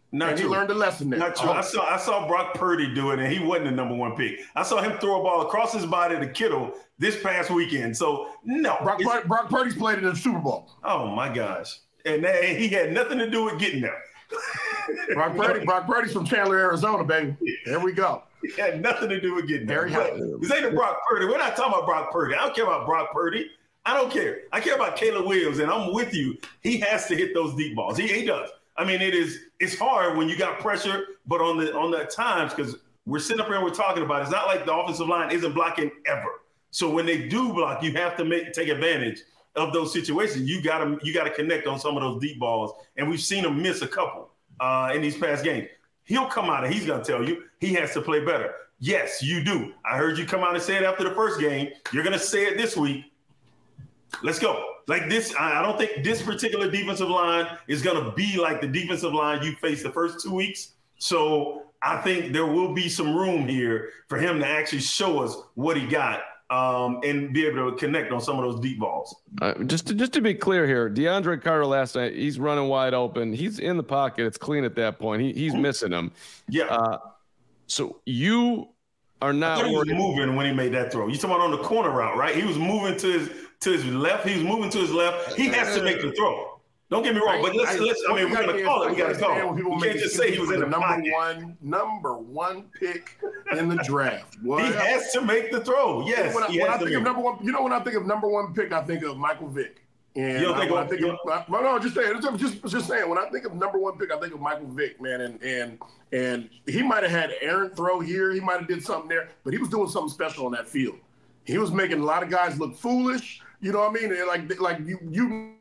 Not and true. he learned a lesson there. Not true. Oh. I saw I saw Brock Purdy do it, and he wasn't the number one pick. I saw him throw a ball across his body to Kittle this past weekend. So no, Brock, Pur- Brock Purdy's played in the Super Bowl. Oh my gosh, and that, he had nothing to do with getting there. Brock Purdy, Brock Purdy's from Chandler, Arizona, baby. There we go. It had nothing to do with getting there. Very But this ain't a Brock Purdy. We're not talking about Brock Purdy. I don't care about Brock Purdy. I don't care. I care about Caleb Williams, and I'm with you. He has to hit those deep balls. He, he does. I mean, it is. It's hard when you got pressure, but on the on the times, because we're sitting up here and we're talking about it, it's not like the offensive line isn't blocking ever. So when they do block, you have to make take advantage of those situations. You got to you got to connect on some of those deep balls, and we've seen him miss a couple uh, in these past games. He'll come out and he's going to tell you he has to play better. Yes, you do. I heard you come out and say it after the first game. You're going to say it this week. Let's go. Like this, I don't think this particular defensive line is going to be like the defensive line you faced the first two weeks. So I think there will be some room here for him to actually show us what he got um, and be able to connect on some of those deep balls. Uh, just, to, just to be clear here, DeAndre Carter last night, he's running wide open. He's in the pocket. It's clean at that point. He, he's mm-hmm. missing him. Yeah. Uh, so you are not. He was moving when he made that throw. You talking about on the corner route, right? He was moving to his to his left. He was moving to his left. He has to make the throw. Don't get me wrong, but let's, I, let's I mean, we're going to call it. We got to call it. You can't just say he was in the number pocket. one, number one pick in the draft. What? He has to make the throw. Yes. When I, when I think of number one, you know, when I think of number one pick, I think of Michael Vick. And you don't think I, of, I think of, I, no, no, just saying, just, just saying. When I think of number one pick, I think of Michael Vick, man, and and and he might have had errant throw here, he might have did something there, but he was doing something special on that field. He was making a lot of guys look foolish. You know what I mean? And like, like you, you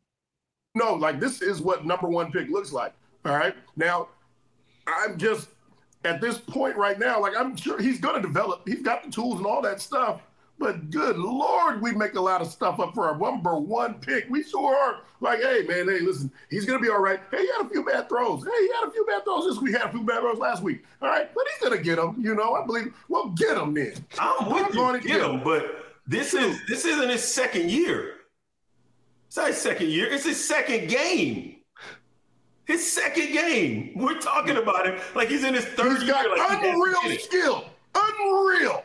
know, like this is what number one pick looks like. All right. Now, I'm just at this point right now, like I'm sure he's going to develop. He's got the tools and all that stuff. But good Lord, we make a lot of stuff up for our number one pick. We sure are. Like, hey, man, hey, listen, he's going to be all right. Hey, he had a few bad throws. Hey, he had a few bad throws this week. He had a few bad throws last week. All right, but he's going to get them. You know, I believe. Well, get him then. I'm with you. Get, get him, but this is this isn't his second year. It's not his second year. It's his second game. His second game. We're talking about him like he's in his third he's got year. Like unreal he skill. Unreal.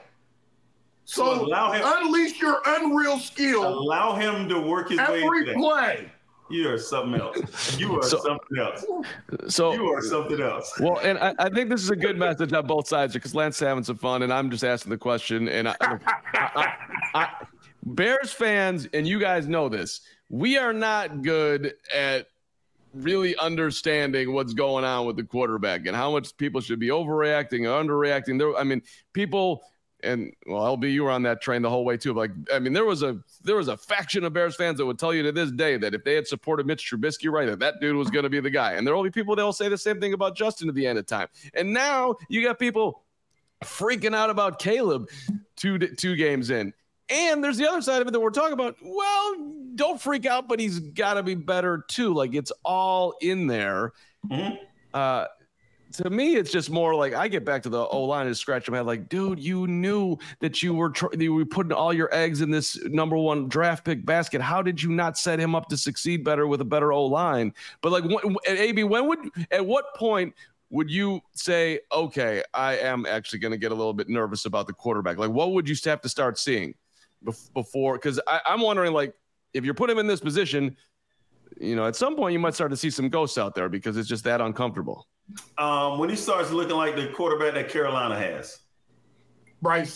So, so allow him, unleash your unreal skill. Allow him to work his every way. Every play. You are something else. You are so, something else. So you are something else. Well, and I, I think this is a good message on both sides because Lance is having some fun, and I'm just asking the question. And I, I, I, I, Bears fans, and you guys know this, we are not good at really understanding what's going on with the quarterback and how much people should be overreacting or underreacting. There, I mean, people. And well, L B, you were on that train the whole way too. Like, I mean, there was a there was a faction of Bears fans that would tell you to this day that if they had supported Mitch Trubisky, right, that that dude was going to be the guy. And there will be people that will say the same thing about Justin at the end of time. And now you got people freaking out about Caleb two two games in. And there's the other side of it that we're talking about. Well, don't freak out, but he's got to be better too. Like it's all in there. Mm-hmm. Uh, To me, it's just more like I get back to the O-line and scratch my head like, dude, you knew that you were tr- you were putting all your eggs in this number one draft pick basket. How did you not set him up to succeed better with a better O-line? But like, at A B, when would at what point would you say, okay, I am actually going to get a little bit nervous about the quarterback? Like, what would you have to start seeing before? Because I'm wondering, like, if you're putting him in this position, you know, at some point you might start to see some ghosts out there because it's just that uncomfortable. Um, when he starts looking like the quarterback that Carolina has, Bryce,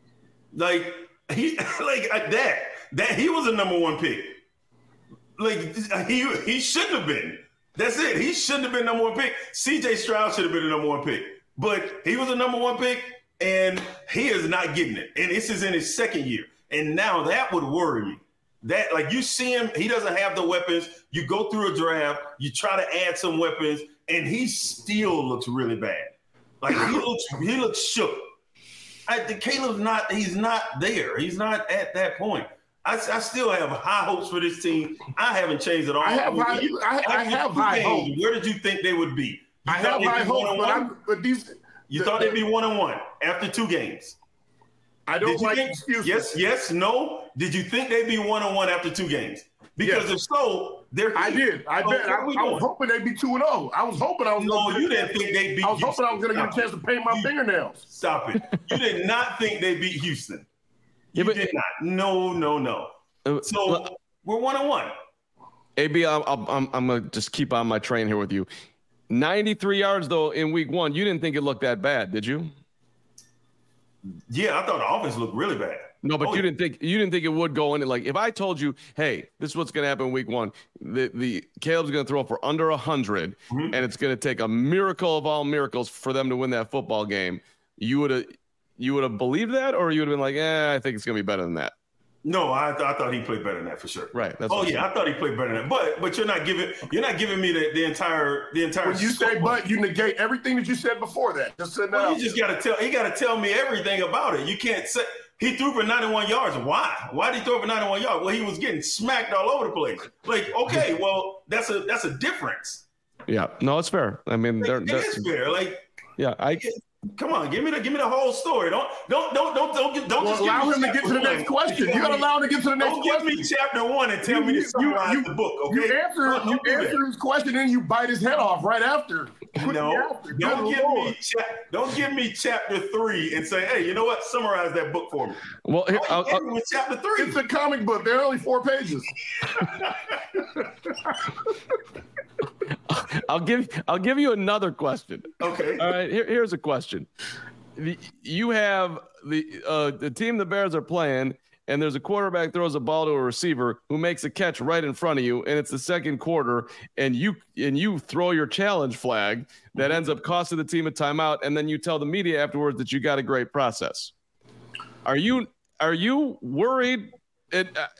like he, like that, that he was a number one pick. Like he, he shouldn't have been. That's it. He shouldn't have been number one pick. C J Stroud should have been the number one pick, but he was a number one pick, and he is not getting it. And this is in his second year, and now that would worry me. That like you see him, he doesn't have the weapons. You go through a draft, you try to add some weapons. And he still looks really bad. Like he looks, he looks shook. I, the Caleb's not. He's not there. He's not at that point. I, I still have high hopes for this team. I haven't changed at all. I have high, you, I, I have high hopes. Where did you think they would be? You I have high hopes, but, I'm, but these. You the, thought they'd be one and one after two games. I don't like think, excuses. Yes, yes, no. Did you think they'd be one and one after two games? Because yes. if so, they're I did. I so bet. I, I was hoping they'd be two and oh. I was hoping I was. No, you didn't think they'd beat. I was Houston. hoping I was going to get a chance to paint my you, fingernails. Stop it! You did not think they beat Houston. You yeah, but, did not. No, no, no. Uh, so uh, we're one on one. A B, I'm, I'm, I'm going to just keep on my train here with you. ninety-three yards, though, in week one. You didn't think it looked that bad, did you? Yeah, I thought the offense looked really bad. No, but oh, you yeah. didn't think you didn't think it would go in. Like if I told you, hey, this is what's going to happen in week one. The the Caleb's going to throw for under one hundred, mm-hmm. and it's going to take a miracle of all miracles for them to win that football game. You would have you would have believed that, or you would have been like, eh, I think it's going to be better than that. No, I, th- I thought he played better than that for sure. Right. That's oh yeah, I thought he played better than that. But but you're not giving you're not giving me the, the entire the entire. When you say but, you negate everything that you said before that. Just sit well, down. you just got to tell he got to tell me everything about it. You can't say he threw for ninety-one yards. Why? Why did he throw for ninety-one yards? Well, he was getting smacked all over the place. Like okay, well that's a that's a difference. Yeah. No, it's fair. I mean, like, they're, it they're, is fair. Like yeah, I. Come on, give me the give me the whole story. Don't don't don't don't don't don't, don't well, just allow him to get to the next question. You gotta allow him to get to the next don't question. Don't give me chapter one and tell you, me to summarize you, the book. Okay, you answer don't, you don't answer his question and you bite his head off right after. No, after. don't give Lord. me cha- don't give me chapter three and say, hey, you know what? Summarize that book for me. Well, here, I'll, I'll, with chapter three. It's a comic book. They're only four pages. I'll give I'll give you another question. Okay. All right. Here, here's a question. The, you have the uh, the team the Bears are playing, and there's a quarterback throws a ball to a receiver who makes a catch right in front of you, and it's the second quarter, and you and you throw your challenge flag that ends up costing the team a timeout, and then you tell the media afterwards that you got a great process. Are you are you worried? It, uh,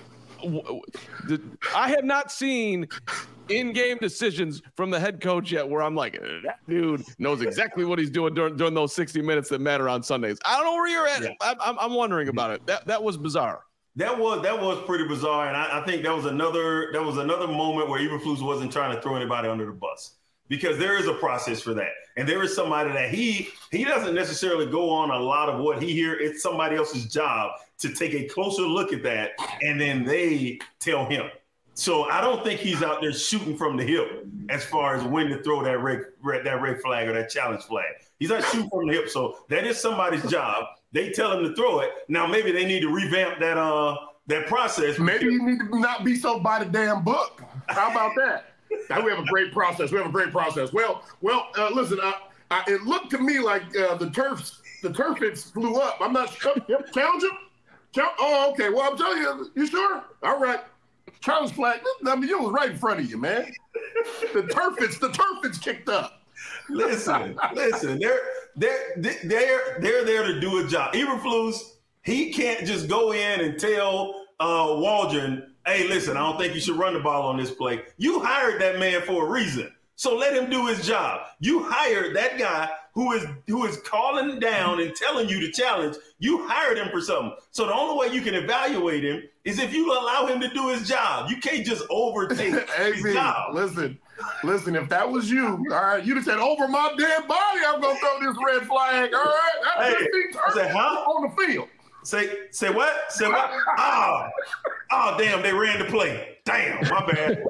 I have not seen in-game decisions from the head coach yet where I'm like, that dude knows exactly what he's doing during, during those sixty minutes that matter on Sundays. I don't know where you're at. Yeah. I'm, I'm wondering about it. That that was bizarre. That was that was pretty bizarre, and I, I think that was another that was another moment where Eberflus wasn't trying to throw anybody under the bus, because there is a process for that, and there is somebody that he he doesn't necessarily go on a lot of what he hear. It's somebody else's job to take a closer look at that, and then they tell him. So I don't think he's out there shooting from the hip as far as when to throw that red, red that red flag or that challenge flag. He's not shooting from the hip. So that is somebody's job. They tell him to throw it. Now maybe they need to revamp that uh that process. Maybe you need to not be so by the damn book. How about that? Now we have a great process. We have a great process. Well, well, uh, listen. I, I, it looked to me like uh, the turfs, the turf hits flew up. I'm not sure. Challenge him. Challenge, oh, okay. Well, I'm telling you. You sure? All right. Challenge flag. I mean, it was right in front of you, man. The turf hits. The turf hits kicked up. Listen, listen. They're they're they're they're there to do a job. Eberflus, he can't just go in and tell uh, Waldron, hey, listen, I don't think you should run the ball on this play. You hired that man for a reason. So let him do his job. You hired that guy who is who is calling down and telling you to challenge. You hired him for something. So the only way you can evaluate him is if you allow him to do his job. You can't just overtake his job. Listen, listen, if that was you, all right, you'd have said, over my dead body, I'm going to throw this red flag, all right? That's hey, I said, huh? On the field. Say say what? Say what? Oh, oh, damn, they ran the play. Damn, my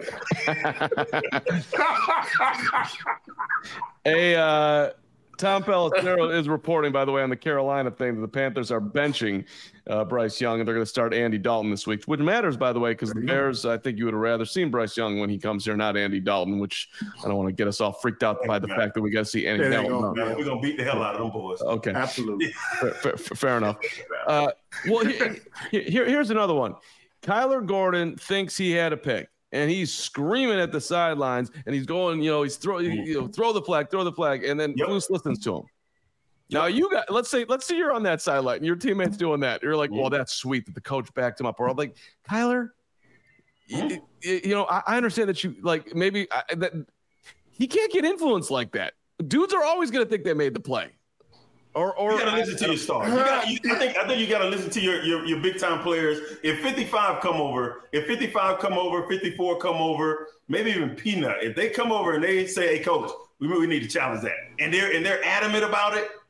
bad. Hey, uh, Tom Pelissero is reporting, by the way, on the Carolina thing that the Panthers are benching uh, Bryce Young, and they're going to start Andy Dalton this week, which matters, by the way, because the Bears, I think you would have rather seen Bryce Young when he comes here, not Andy Dalton, which I don't want to get us all freaked out by the fact that we got to see Andy Dalton. Go, no. We're going to beat the hell out of them boys. Okay. Absolutely. Fair, fair, fair enough. Uh, well, here, here, here's another one. Kyler Gordon thinks he had a pick, and he's screaming at the sidelines, and he's going, you know, he's throw, you know, throw the flag, throw the flag, and then yep. Flus listens to him. Yep. Now you got, let's say, let's say you're on that sideline, and your teammate's doing that. You're like, well, that's sweet that the coach backed him up. Or I'm like, Kyler, you, you know, I, I understand that you like maybe I, that he can't get influenced like that. Dudes are always going to think they made the play. Or, or you gotta listen to your stars. You gotta, you, I think I think you gotta listen to your, your your big time players. If fifty-five come over, if fifty-five come over, fifty-four come over, maybe even Peanut, if they come over and they say, "Hey, coach, we really need to challenge that," and they're and they're adamant about it,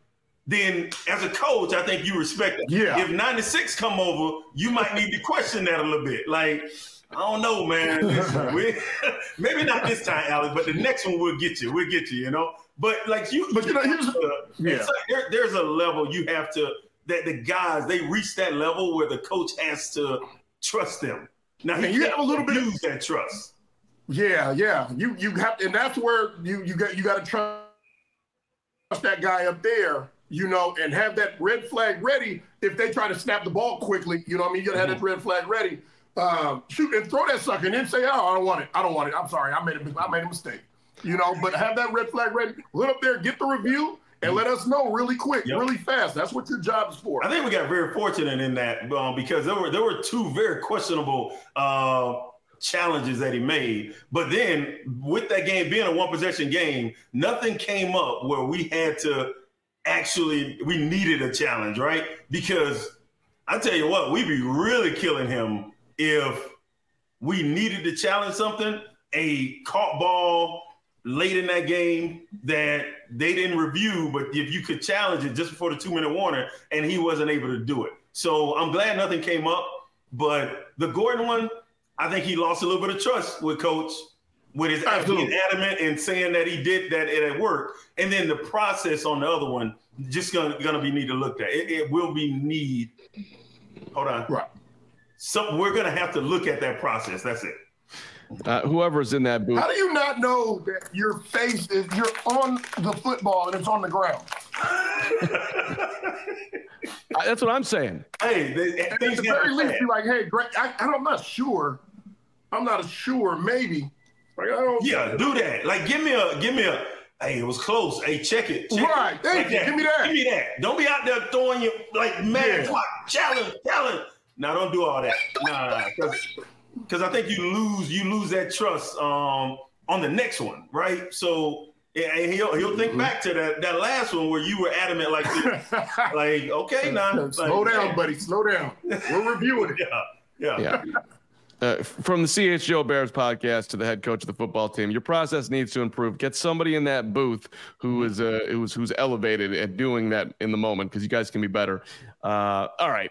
then as a coach, I think you respect it. Yeah. If ninety-six come over, you might need to question that a little bit. Like, I don't know, man. Listen, we, maybe not this time, Alex, but the next one we'll get you. We'll get you, you know. But like you, but you know, here's uh, yeah. like there, there's a level you have to that the guys they reach that level where the coach has to trust them. Now he and you have a little bit use that trust. Yeah, yeah. You you have, and that's where you you got you got to trust that guy up there, you know, and have that red flag ready if they try to snap the ball quickly. You know what I mean? You got to have Mm-hmm. that red flag ready. Um, shoot and throw that sucker, and then say, "Oh, I don't want it. I don't want it. I'm sorry. I made a I made a mistake." You know, but have that red flag ready. Let up there, get the review, and let us know really quick, Yep. really fast. That's what your job is for. I think we got very fortunate in that um, because there were there were two very questionable uh, challenges that he made. But then with that game being a one possession game, nothing came up where we had to actually we needed a challenge, right? Because I tell you what, we'd be really killing him if we needed to challenge something, a caught ball late in that game that they didn't review, but if you could challenge it just before the two-minute warning, and he wasn't able to do it. So I'm glad nothing came up. But the Gordon one, I think he lost a little bit of trust with Coach, with his being adamant and saying that he did that it had worked. And then the process on the other one, just gonna, gonna be need to look at. It, it will be need. Hold on. Right. So we're gonna have to look at that process. That's it. Uh, whoever's in that booth. How do you not know that your face is you're on the football and it's on the ground? That's what I'm saying. Hey, they, At things the very happen least, fast. you're like, hey, Greg, I, I'm not sure. I'm not sure. Maybe. Like, I don't. Yeah, do that. Like, give me a, give me a. Hey, it was close. Hey, check it. Check Right. It. Thank Like you. Give me that. Give me that. Don't be out there throwing you like mad Yeah. clock. Challenge, challenge. Now, don't do all that. Nah, because I think you lose, you lose that trust um, on the next one, right? So, and he'll he'll think back to that that last one where you were adamant, like, like okay, now Slow like, down, buddy. Slow down. We're reviewing it. Yeah, yeah. Yeah. Uh, from the C H G O Bears podcast to the head coach of the football team, your process needs to improve. Get somebody in that booth who is uh, who's who's elevated at doing that in the moment, because you guys can be better. Uh, all right,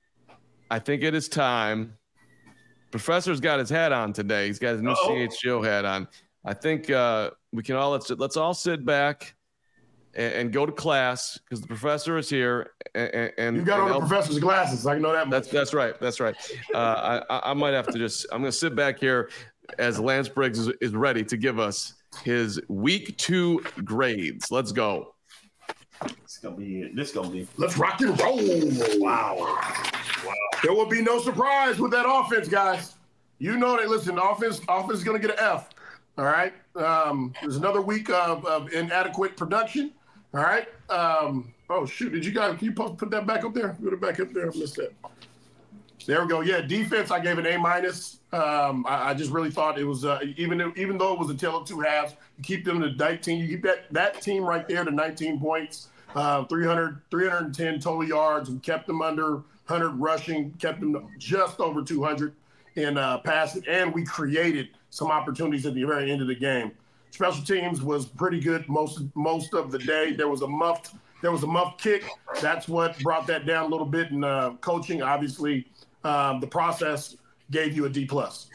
I think it is time. Professor's got his hat on today. He's got his new Uh-oh. C H G O hat on. I think uh, we can all let's let's all sit back and, and go to class, because the professor is here. And, and You got on and the El- professor's glasses. I know that much. That's that's right. That's right. Uh, I I might have to just. I'm going to sit back here as Lance Briggs is, is ready to give us his week two grades. Let's go. It's gonna be. This gonna be. Let's rock and roll. Wow. Wow. There will be no surprise with that offense, guys. You know that. Listen, the offense, offense is going to get an F. All right. Um, there's another week of, of inadequate production. All right. Um, oh shoot! Did you guys? Can you post, put that back up there? Put it back up there. I missed that. There we go. Yeah, defense. I gave an A minus. Um, I, I just really thought it was uh, even even though it was a tale of two halves. You keep them to nineteen. You keep that that team right there to nineteen points, uh, three hundred, three hundred ten total yards, and kept them under one hundred rushing. Kept them just over two hundred in uh, passing, and we created some opportunities at the very end of the game. Special teams was pretty good most most of the day. There was a muffed there was a muffed kick. That's what brought that down a little bit. In uh, coaching, obviously, um, the process gave you a D plus.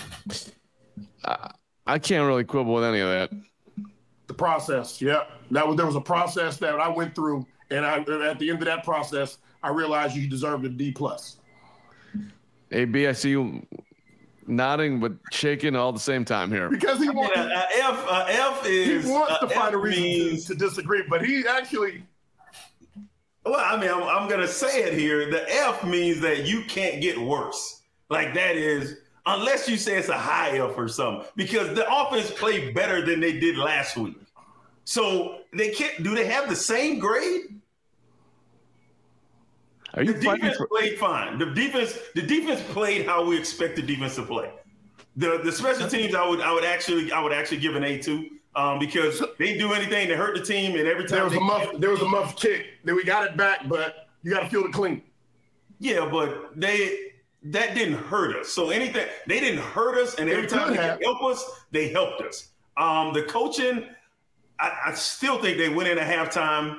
I, I can't really quibble with any of that. The process, yeah, that was there was a process that I went through, and I at the end of that process, I realized you deserved a D plus. A B, I see you nodding but shaking all at the same time here. Because he wants Yeah, uh, F, uh, F is. he wants uh, to find F a reason means- to, to disagree, but he actually. Well, I mean, I'm, I'm going to say it here. The F means that you can't get worse. Like that is, unless you say it's a high F or something, because the offense played better than they did last week. So they can't, do they have the same grade? Are you The fighting defense for? played fine. The defense, the defense played how we expect the defense to play. The the special teams, I would I would actually I would actually give an A to. Um, because they didn't do anything to hurt the team, and every time There was they a muff. There was a muff kick. Then we got it back, but you got to feel it clean. Yeah, but they that didn't hurt us. So anything they didn't hurt us, and every They time could they have. could help us, they helped us. Um, the coaching, I, I still think they went in at halftime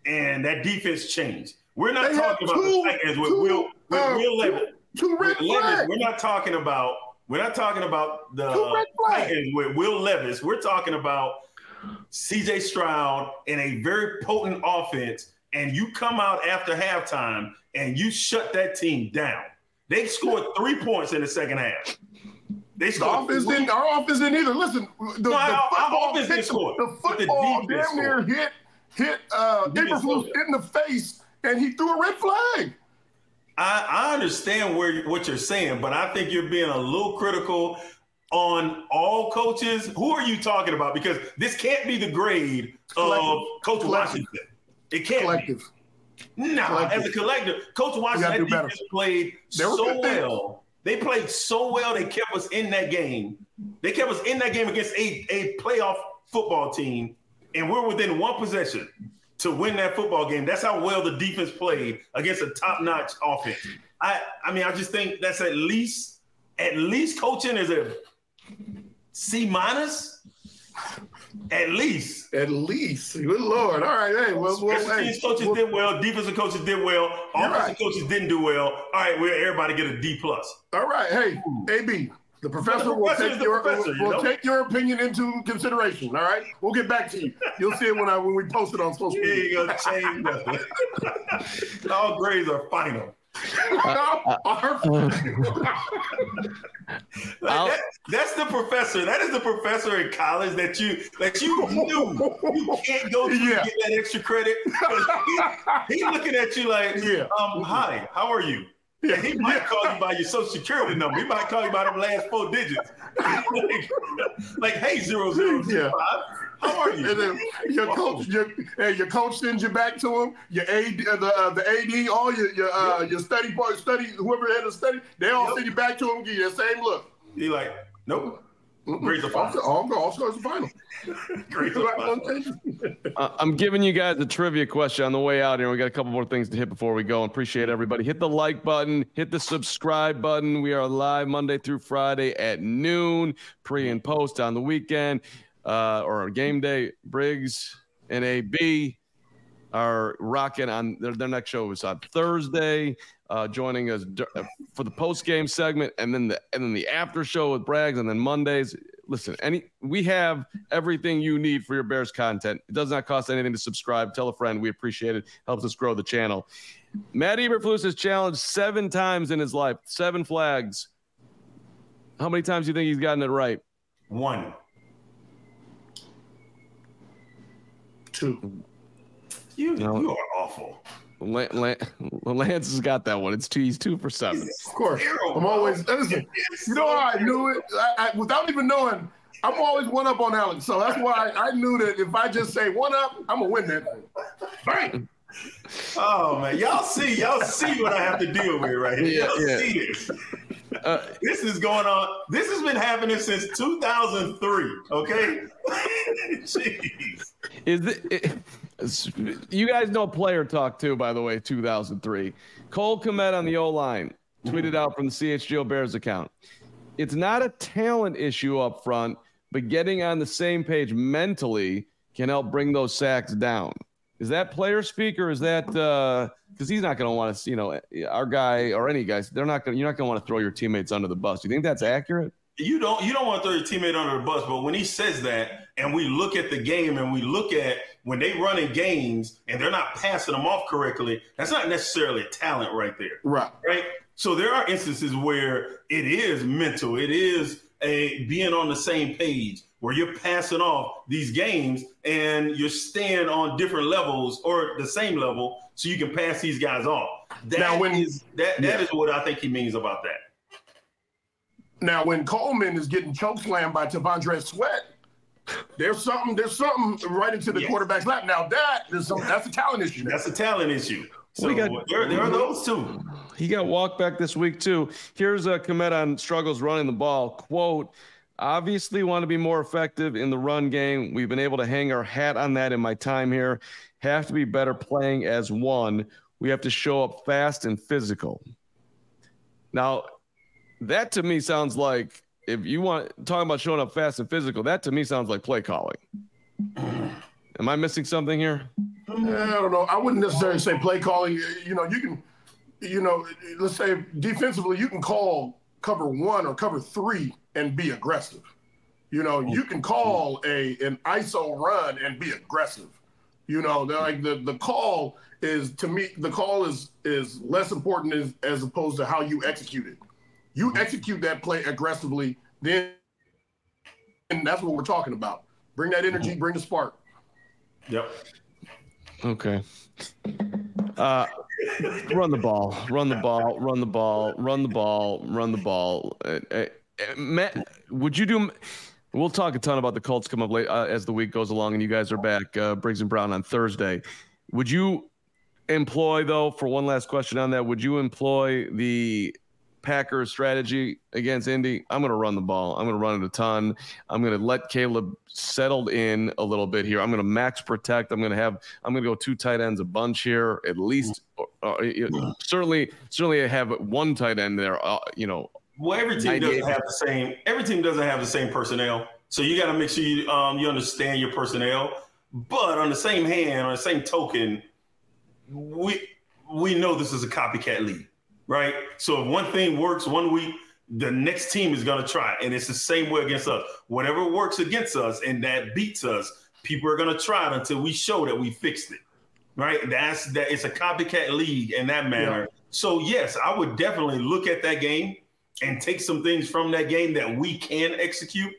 and that defense changed. We're not They talking had about two- the Titans with two, Will with uh, Will Levis. Two red With Levis, flags. we're not talking about we're not talking about the Two red flags. Titans with Will Levis. We're talking about C J Stroud in a very potent offense, and you come out after halftime and you shut that team down. They scored three points in the second half. They The scored offense three. didn't. Our offense didn't either. Listen, the, No, the our- our football, offense didn't hit- score, the but the football defense damn near scored. hit hit uh, defense Eberflus scored. in the face, and he threw a red flag. I, I understand where you, what you're saying, but I think you're being a little critical on all coaches. Who are you talking about? Because this can't be the grade Collective. of Coach Collective. Washington. It can't Collective. be. Nah, Collective. as a collective, Coach We Washington, gotta that do better. defense played They were so good things. well. They played so well. They kept us in that game. They kept us in that game against a, a playoff football team, and we're within one possession to win that football game. That's how well the defense played against a top-notch offense. I, I mean, I just think that's at least, at least coaching is a C minus. At least. At least. Good Lord. All right. Hey, well, well Special hey, teams coaches well, did well. Defensive coaches did well. You're Offensive right. coaches didn't do well. All right, well, everybody get a D plus. all right. Hey, A B. The professor, the will, professor take is the your, professor, you will know? take your opinion into consideration. All right. We'll get back to you. You'll see it when I when we post it on social Here media. you go, change nothing. All grades are final. Like I'll- that, that's the professor. That is the professor in college that you that you knew you can't go to Yeah. to get that extra credit. He, he looking at you like, Yeah. um, hi, how are you? Yeah. And he might call you by your social security number. He might call you by them last four digits. like, like, hey, zero zero zero Yeah. five. How are you? And then your coach, your, hey, your coach sends you back to him. Your A D, uh, the uh, the A D, all your your uh, your study part, study whoever had to study, they all Yep. send you back to him. Give you the same look. He like, nope. Grades are fine. Also, all all scores are final. Grades are fine. Uh, I'm giving you guys a trivia question on the way out here. We got a couple more things to hit before we go. Appreciate everybody. Hit the like button. Hit the subscribe button. We are live Monday through Friday at noon, pre and post on the weekend uh, or game day. Briggs and A B are rocking on their, their next show is on Thursday. Uh, joining us d- for the post game segment, and then the and then the after show with Braggs, and then Mondays. Listen, any we have everything you need for your Bears content. It does not cost anything to subscribe. Tell a friend. We appreciate it. Helps us grow the channel. Matt Eberflus has challenged seven times in his life. Seven flags. How many times do you think he's gotten it right? One. Two. You, No. you are awful. Lan- Lan- Lance has got that one. It's two. He's two for seven. Of course. Terrible. I'm always listen. It's You know so how I knew it? I, I, without even knowing, I'm always one up on Alex. So that's why I, I knew that if I just say one up, I'm gonna win that thing. Bang. Oh man, y'all see, y'all see what I have to deal with right here. Yeah, y'all yeah. see this. Uh, This is going on. This has been happening since two thousand three. Okay. Jeez. Is it, it, you guys know player talk too, by the way, two thousand three. Cole Kmet on the O-line tweeted out from the C H G O Bears account. It's not a talent issue up front, but getting on the same page mentally can help bring those sacks down. Is that player speak, or is that because he's not going to want to, you know, our guy or any guys, they're not going. You're not going to want to throw your teammates under the bus. Do you think that's accurate? You don't you don't want to throw your teammate under the bus, but when he says that, and we look at the game, and we look at when they run in games, and they're not passing them off correctly, that's not necessarily a talent right there. Right. Right. So there are instances where it is mental. It is a being on the same page where you're passing off these games and you're staying on different levels or the same level so you can pass these guys off. That Now, when- is that that yeah. is what I think he means about that. Now, when Coleman is getting chokeslammed by T'Vondre Sweat, there's something. There's something right into the Yes. quarterback's lap. Now that is some. That's a talent issue. That's a talent issue. So We got- there, there are those two. He got walked back this week too. Here's a Kmet on struggles running the ball. Quote, obviously want to be more effective in the run game. We've been able to hang our hat on that in my time here. Have to be better playing as one. We have to show up fast and physical. Now, that to me sounds like if you want talking about showing up fast and physical, that to me sounds like play calling. Am I missing something here? I don't know. I wouldn't necessarily say play calling. You know, you can, you know, let's say defensively, you can call cover one or cover three and be aggressive. You know, you can call a an I S O run and be aggressive. You know, like the, the call is, to me, the call is is less important as, as opposed to how you execute it. You execute that play aggressively, then and that's what we're talking about. Bring that energy, bring the spark. Yep. Okay. Uh, run the ball, run the ball, run the ball, run the ball, run the ball. Uh, uh, Matt, would you do? We'll talk a ton about the Colts come up late uh, as the week goes along, and you guys are back, uh, Briggs and Brown, on Thursday. Would you employ, though, for one last question on that, would you employ the Packers strategy against Indy? I'm going to run the ball. I'm going to run it a ton. I'm going to let Caleb settled in a little bit here. I'm going to max protect. I'm going to have. I'm going to go two tight ends a bunch here, at least. Uh, certainly, certainly, I have one tight end there. Uh, you know. Well, every team doesn't have the same. Every team doesn't have the same personnel, so you got to make sure you um, you understand your personnel. But on the same hand, on the same token, we we know this is a copycat league, right? So if one thing works one week, the next team is going to try, and it's the same way against us. Whatever works against us and that beats us, people are going to try it until we show that we fixed it, right? That's that. It's a copycat league in that manner. Yeah. So yes, I would definitely look at that game and take some things from that game that we can execute.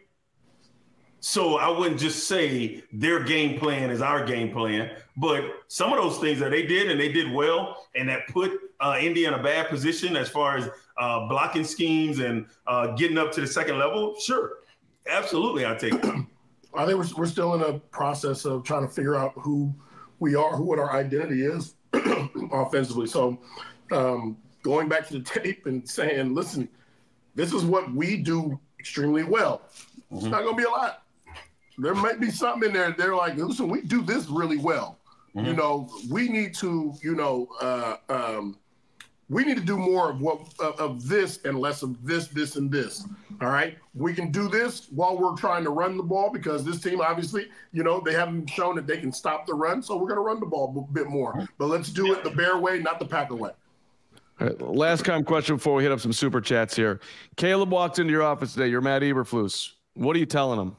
So I wouldn't just say their game plan is our game plan, but some of those things that they did and they did well, and that put uh, Indy in a bad position as far as uh, blocking schemes and uh, getting up to the second level. Sure, absolutely, I take it. I think we're, we're still in a process of trying to figure out who we are, who what our identity is offensively. So um, going back to the tape and saying, listen, this is what we do extremely well. Mm-hmm. It's not going to be a lot. There might be something in there. They're like, listen, we do this really well. Mm-hmm. You know, we need to, you know, uh, um, we need to do more of what of, of this and less of this, this, and this. All right. We can do this while we're trying to run the ball because this team, obviously, you know, they haven't shown that they can stop the run. So we're going to run the ball a bit more. But let's do it the Bear way, not the Packer way. All right, last time question before we hit up some super chats here. Caleb walked into your office today. You're Matt Eberflus. What are you telling him?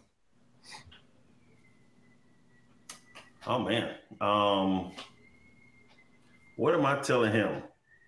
Oh man, um, what am I telling him?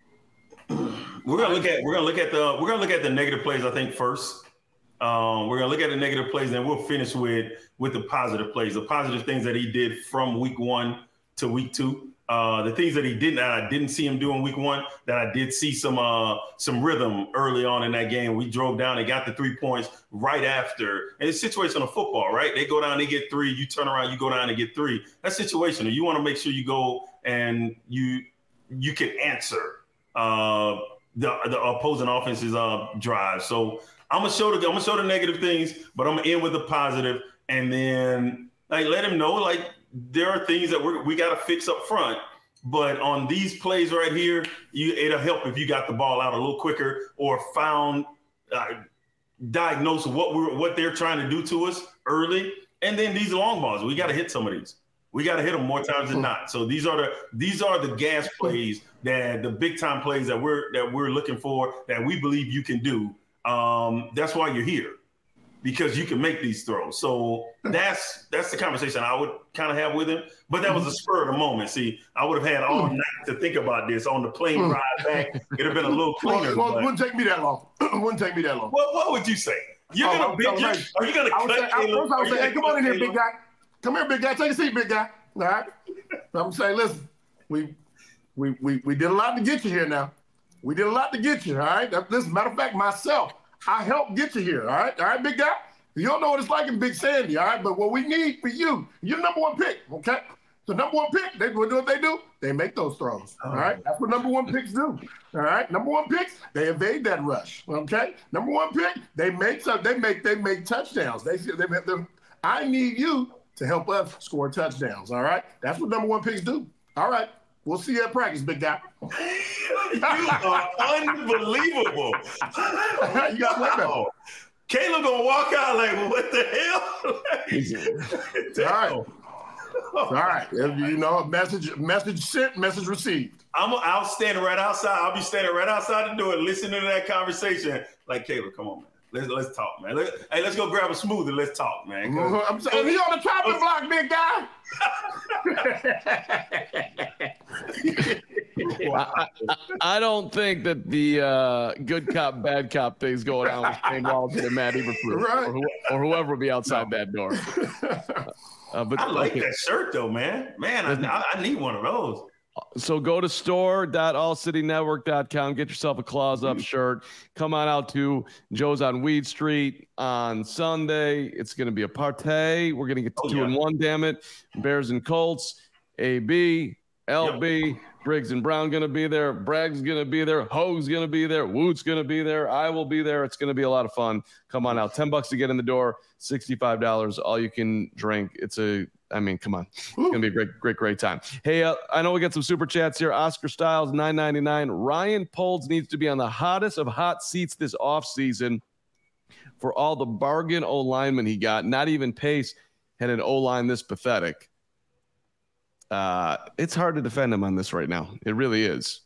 We're gonna look at we're gonna look at the we're gonna look at the negative plays. I think first, um, we're gonna look at the negative plays, and then we'll finish with with the positive plays, the positive things that he did from week one to week two. Uh, the things that he didn't, that I didn't see him do in week one, that I did see some uh, some rhythm early on in that game. We drove down and got the three points right after. And it's situational football, right? They go down, they get three. You turn around, you go down and get three. That's situational. You want to make sure you go and you you can answer uh, the the opposing offense's uh, drive. So I'm gonna show the I'm gonna show the negative things, but I'm gonna end with the positive, and then like let him know like. There are things that we're, we got to fix up front, but on these plays right here, you, it'll help if you got the ball out a little quicker or found, uh, diagnosed what we're what they're trying to do to us early, and then these long balls, we got to hit some of these. We got to hit them more times than not. So these are the these are the gas plays that the big time plays that we're that we're looking for that we believe you can do. Um, that's why you're here. Because you can make these throws. So that's that's the conversation I would kind of have with him. But that was a spur of the moment. See, I would have had all night to think about this on the plane ride back. It would have been a little cleaner. Well, it wouldn't take me that long. It wouldn't take me that long. Well, what would you say? You're oh, gonna big, right. Are you gonna cut say, Caleb? I was saying, hey, come on in here, Caleb? big guy. Come here, big guy. Take a seat, big guy. All right. I'm saying, listen, we we we we did a lot to get you here now. We did a lot to get you, all right? Listen, matter of fact, myself, I helped get you here, all right? All right, big guy? You don't know what it's like in Big Sandy, all right? But what we need for you, you're the number one pick, okay? The number one pick, they do what they do. They make those throws, all right? That's what number one picks do, all right? Number one picks, they evade that rush, okay? Number one pick, they make some, they make they make touchdowns. They they, they I need you to help us score touchdowns, all right? That's what number one picks do. All right, we'll see you at practice, big guy. You are unbelievable. You got wow. Caleb gonna walk out like, what the hell? All right. All right. You know, message message sent, message received. I'm I'll stand right outside. I'll be standing right outside the door listening to that conversation. Like, Caleb, come on, man. Let's let's talk, man. Let, hey, let's go grab a smoothie. Let's talk, man. Mm-hmm. I'm saying he on the chopping block, big guy. I, I, I don't think that the uh, good cop, bad cop thing's going on with Shane Waldron and Matt Eberflus, right. or, who, or whoever will be outside no. that door. Uh, but I like okay. that shirt, though, man. Man, I, I need one of those. So go to store dot all city network dot com. Get yourself a Claws Up shirt. Come on out to Joe's on Weed Street on Sunday. It's going to be a party. We're going to get to oh, two yeah. and one, damn it. Bears and Colts, A B, L B, yep. Briggs and Brown going to be there. Bragg's going to be there. Hogue's going to be there. Woot's going to be there. I will be there. It's going to be a lot of fun. Come on out. ten bucks to get in the door. sixty-five dollars all you can drink. It's a I mean, come on. It's going to be a great, great, great time. Hey, uh, I know we got some super chats here. Oscar Styles, nine ninety-nine. Ryan Poles needs to be on the hottest of hot seats this offseason for all the bargain O-linemen he got. Not even Pace had an O-line this pathetic. Uh, it's hard to defend him on this right now. It really is.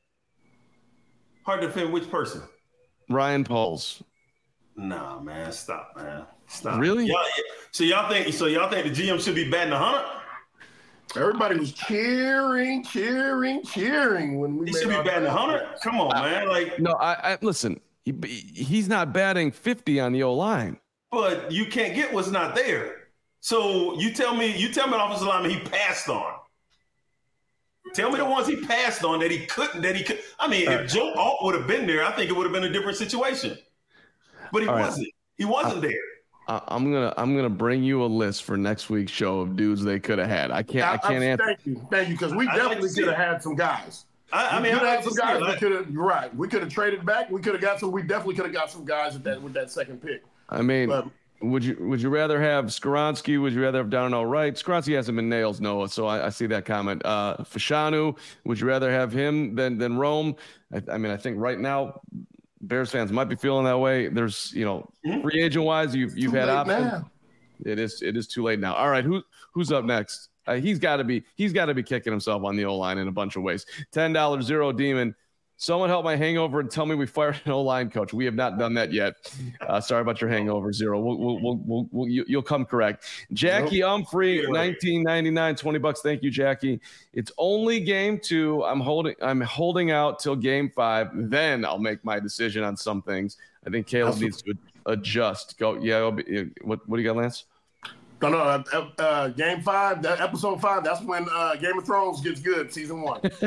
Hard to defend which person? Ryan Poles. Nah, man. Stop, man. Stop. Really? Y'all, so y'all think so y'all think the G M should be batting a hundred? Everybody was cheering, cheering, cheering when we he made should be batting a hundred. Come on, I, man. Like no, I, I listen. He, he's not batting fifty on the O line. But you can't get what's not there. So you tell me, you tell me, an offensive lineman he passed on. Tell me the ones he passed on that he couldn't. That he could. I mean, All if right. Joe Alt would have been there, I think it would have been a different situation. But he All wasn't. Right. He wasn't I, there. I'm gonna I'm gonna bring you a list for next week's show of dudes they could have had. I can't I, I can't I, answer. Thank you, thank you, because we definitely like could have had some guys. I, I mean, we could have had some guys. We could have right. We could have traded back. We could have got some. We definitely could have got some guys with that with that second pick. I mean, but, would you would you rather have Skoronski? Would you rather have Darnell Wright? Skoronski hasn't been nails, Noah. So I, I see that comment. Uh, Fashanu, would you rather have him than than Rome? I, I mean, I think right now, Bears fans might be feeling that way. There's, you know, free agent wise, you've you've had options. Now. It is it is too late now. All right, who who's up next? Uh, he's got to be he's got to be kicking himself on the O-line in a bunch of ways. ten dollars Zero Demon. Someone help my hangover and tell me we fired an O-line coach. We have not done that yet. Uh, sorry about your hangover, Zero. We'll, we'll, we'll, we'll, we'll, you'll come correct. Jackie nope. Humphrey, nineteen ninety-nine, twenty bucks. Thank you, Jackie. It's only game two. I'm holding I'm holding out till game five. Then I'll make my decision on some things. I think Caleb That's needs to adjust. Go. Yeah. Be, what, what do you got, Lance? No, no. Uh, uh, game five, that episode five. That's when uh, Game of Thrones gets good. Season one. uh,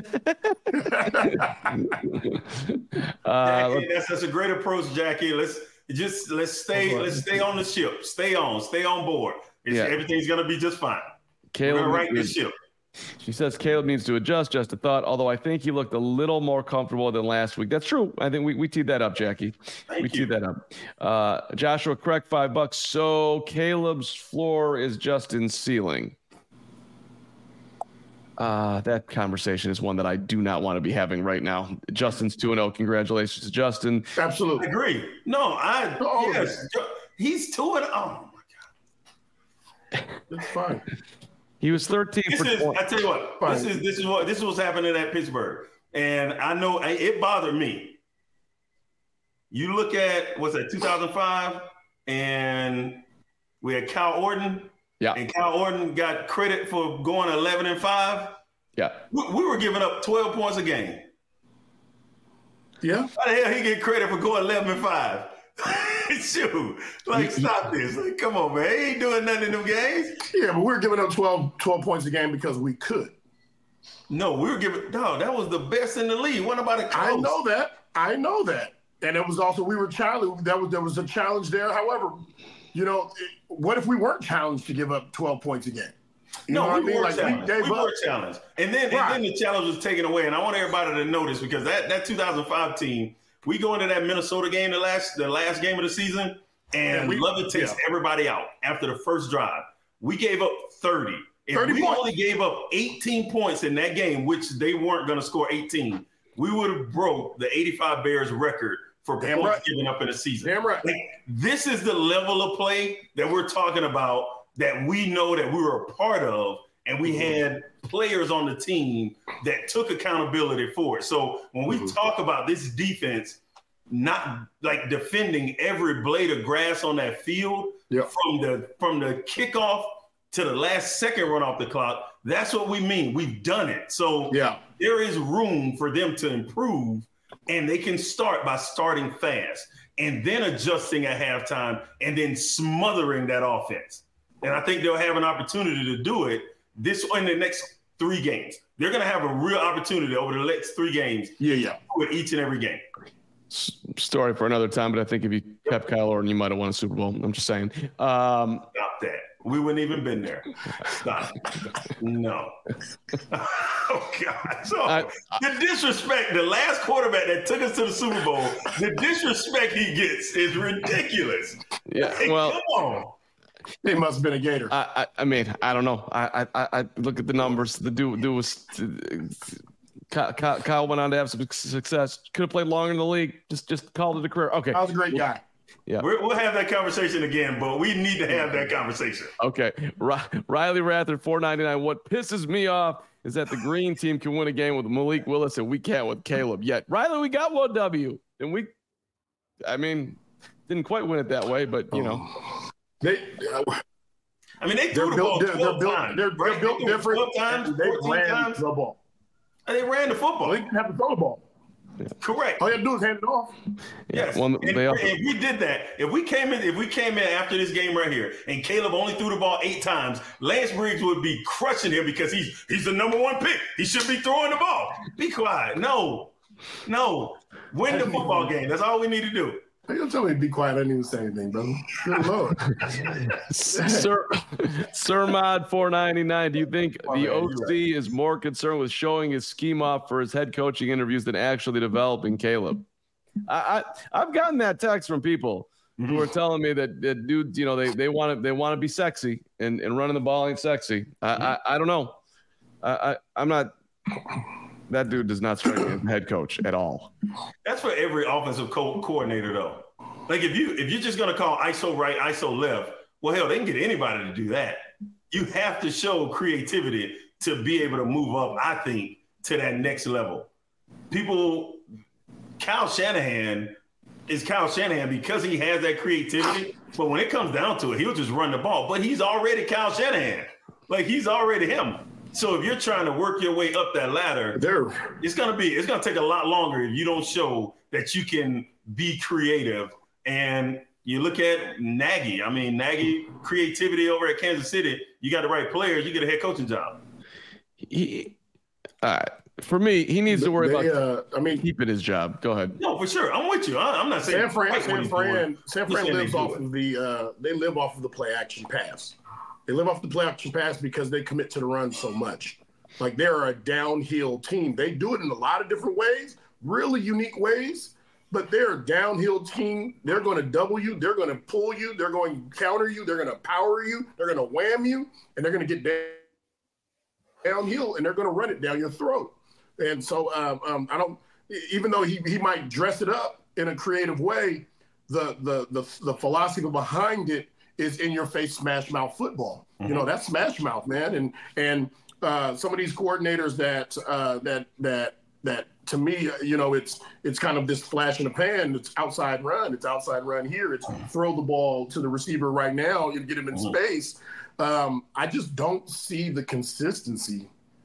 Jackie, that's that's a great approach, Jackie. Let's just let's stay let's stay on the ship. Stay on. Stay on board. It's, yeah. Everything's gonna be just fine. Caleb, We're gonna right the ship. She says Caleb needs to adjust. Just a thought. Although I think he looked a little more comfortable than last week. That's true. I think we, we teed that up, Jackie. Thank we you. teed that up. Uh, Joshua, correct, five bucks. So Caleb's floor is Justin's ceiling. Uh, that conversation is one that I do not want to be having right now. Justin's two and oh. Congratulations to Justin. Absolutely. I agree. No, I oh, yes. He's two and oh my God. It's fine. He was thirteen this for is, twenty. I tell you what, Fine. this is this is what this is what's happening at Pittsburgh. And I know it bothered me. You look at what's that, two thousand five, and we had Kyle Orton. Yeah. And Kyle Orton got credit for going eleven and five. Yeah. We, we were giving up twelve points a game. Yeah. How the hell he get credit for going eleven and five? Shoot, like stop this! Like, come on, man, he ain't doing nothing in them games. Yeah, but we were giving up twelve, twelve points a game because we could. No, we were giving. No, that was the best in the league. What about it? I know that. I know that, and it was also we were challenged. That was there was a challenge there. However, you know, what if we weren't challenged to give up twelve points a game? You no, know we what I mean? were Like, challenged. We, we were challenged, and then right. and then the challenge was taken away. And I want everybody to notice because that that two thousand five team. We go into that Minnesota game, the last the last game of the season, and we, Lovett takes yeah. everybody out after the first drive. We gave up thirty. If thirty we points. only gave up eighteen points in that game, which they weren't going to score eighteen, we would have broke the eighty-five Bears record for Damn points right. given up in a season. Damn right. Like, this is the level of play that we're talking about that we know that we were a part of, and we had players on the team that took accountability for it. So when we mm-hmm. talk about this defense, not like defending every blade of grass on that field yep. from the from the kickoff to the last second run off the clock, that's what we mean. We've done it. So yeah. there is room for them to improve, and they can start by starting fast and then adjusting at halftime and then smothering that offense. And I think they'll have an opportunity to do it this in the next three games. They're going to have a real opportunity over the next three games. Yeah, yeah. With each and every game. Story for another time, but I think if you kept Kyle Orton, you might have won a Super Bowl. I'm just saying. Um, Stop that. We wouldn't even been there. Stop. No. Oh, God. So I, I, the disrespect, the last quarterback that took us to the Super Bowl, the disrespect he gets is ridiculous. Yeah, like, well. Come on. It must have been a Gator. I, I, I mean, I don't know. I, I, I look at the numbers. The dude, dude was Kyle, Kyle went on to have some success. Could have played longer in the league. Just, just called it a career. Okay, I was a great guy. Yeah, We're, we'll have that conversation again, but we need to have that conversation. Okay, Riley Rather, four ninety-nine. What pisses me off is that the green team can win a game with Malik Willis and we can't with Caleb yet. Riley, we got one W, and we, I mean, didn't quite win it that way, but you know. They, uh, I mean, they threw the ball they're, twelve they're times. They're, they're built different. twelve times, they ran times. the ball. And they ran the football. They didn't have to throw the ball. Yeah. Correct. All you have to do is hand it off. Yes. Well, and, they also- if we did that, if we came in, if we came in after this game right here, and Caleb only threw the ball eight times, Lance Briggs would be crushing him because he's he's the number one pick. He should be throwing the ball. Be quiet. No, no. Win the football game. That's all we need to do. You don't tell me to be quiet. I didn't even say anything, brother. Good Lord. Sir, Sir Mod four ninety-nine. Do you think oh, the man, O C right. is more concerned with showing his scheme off for his head coaching interviews than actually developing Caleb? I, I I've gotten that text from people mm-hmm. who are telling me that, that dudes, you know, they they want to they want to be sexy and, and running the ball ain't sexy. I mm-hmm. I, I don't know. I, I I'm not. That dude does not strike me as head coach at all. That's for every offensive co- coordinator, though. Like if you if you're just gonna call I S O right, I S O left, well, hell, they can get anybody to do that. You have to show creativity to be able to move up. I think to that next level. People, Kyle Shanahan is Kyle Shanahan because he has that creativity. But when it comes down to it, he'll just run the ball. But he's already Kyle Shanahan. Like he's already him. So if you're trying to work your way up that ladder, there, it's gonna be it's gonna take a lot longer if you don't show that you can be creative. And you look at Nagy. I mean, Nagy creativity over at Kansas City. You got the right players, you get a head coaching job. He, uh, for me, he needs to worry they, about. Uh, I mean, keeping his job. Go ahead. No, for sure. I'm with you. I, I'm not saying San Fran. San Fran. San Fran lives off of the. Uh, they live off of the play action pass. They live off the play action pass because they commit to the run so much. Like they're a downhill team. They do it in a lot of different ways, really unique ways, but they're a downhill team. They're going to double you. They're going to pull you. They're going to counter you. They're going to power you. They're going to wham you, and they're going to get down, downhill, and they're going to run it down your throat. And so um, um, I don't, even though he, he might dress it up in a creative way, the the the, the philosophy behind it is in your face smash mouth football. Mm-hmm. You know, that's smash mouth, man. And and uh, some of these coordinators that uh, that that that to me, you know, it's it's kind of this flash in the pan. It's outside run. It's outside run here. It's throw the ball to the receiver right now and get him in mm-hmm. space. Um, I just don't see the consistency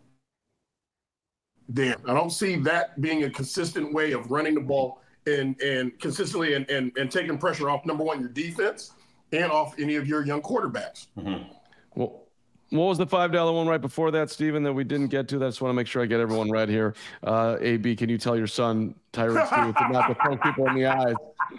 there. I don't see that being a consistent way of running the ball and and consistently and and, and taking pressure off, number one, your defense, and off any of your young quarterbacks. Mm-hmm. Well, what was the five dollar one right before that, Steven, that we didn't get to? I just want to make sure I get everyone right here. Uh, A B, can you tell your son, Tyron Stewart, to not to poke people in the eyes?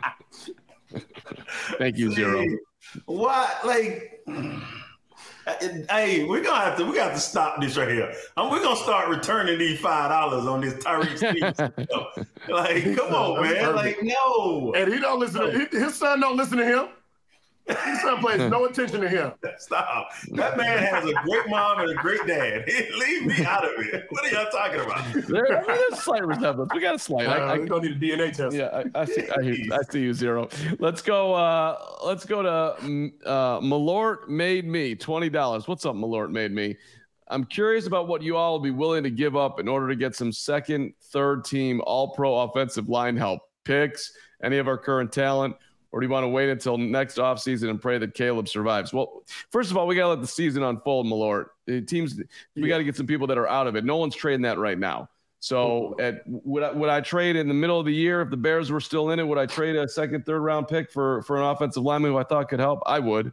Thank you, Zero. What? Like, hey, we're gonna have to we got to stop this right here. Um, we're gonna start returning these five dollars on this Tyreek Stevens. Like, come on, man. Like, no. And he don't listen to his son. Don't listen to him. His son pays no attention to him. Stop. That man has a great mom and a great dad. Leave me out of it. What are y'all talking about? There, I mean, there's a slight resemblance. We got a slight. Uh, I, I, we don't need a D N A test. Yeah, I, I see. I, hear, I see you, Zero. Let's go. Uh, let's go to uh, Malort Made Me twenty dollars. What's up, Malort Made Me? I'm curious about what you all will be willing to give up in order to get some second, third team all-pro offensive line help. Picks, any of our current talent, or do you want to wait until next offseason and pray that Caleb survives? Well, first of all, we got to let the season unfold, Malort. The teams, we got to get some people that are out of it. No one's trading that right now. So at, would, I, would I trade in the middle of the year if the Bears were still in it? Would I trade a second, third round pick for, for an offensive lineman who I thought could help? I would.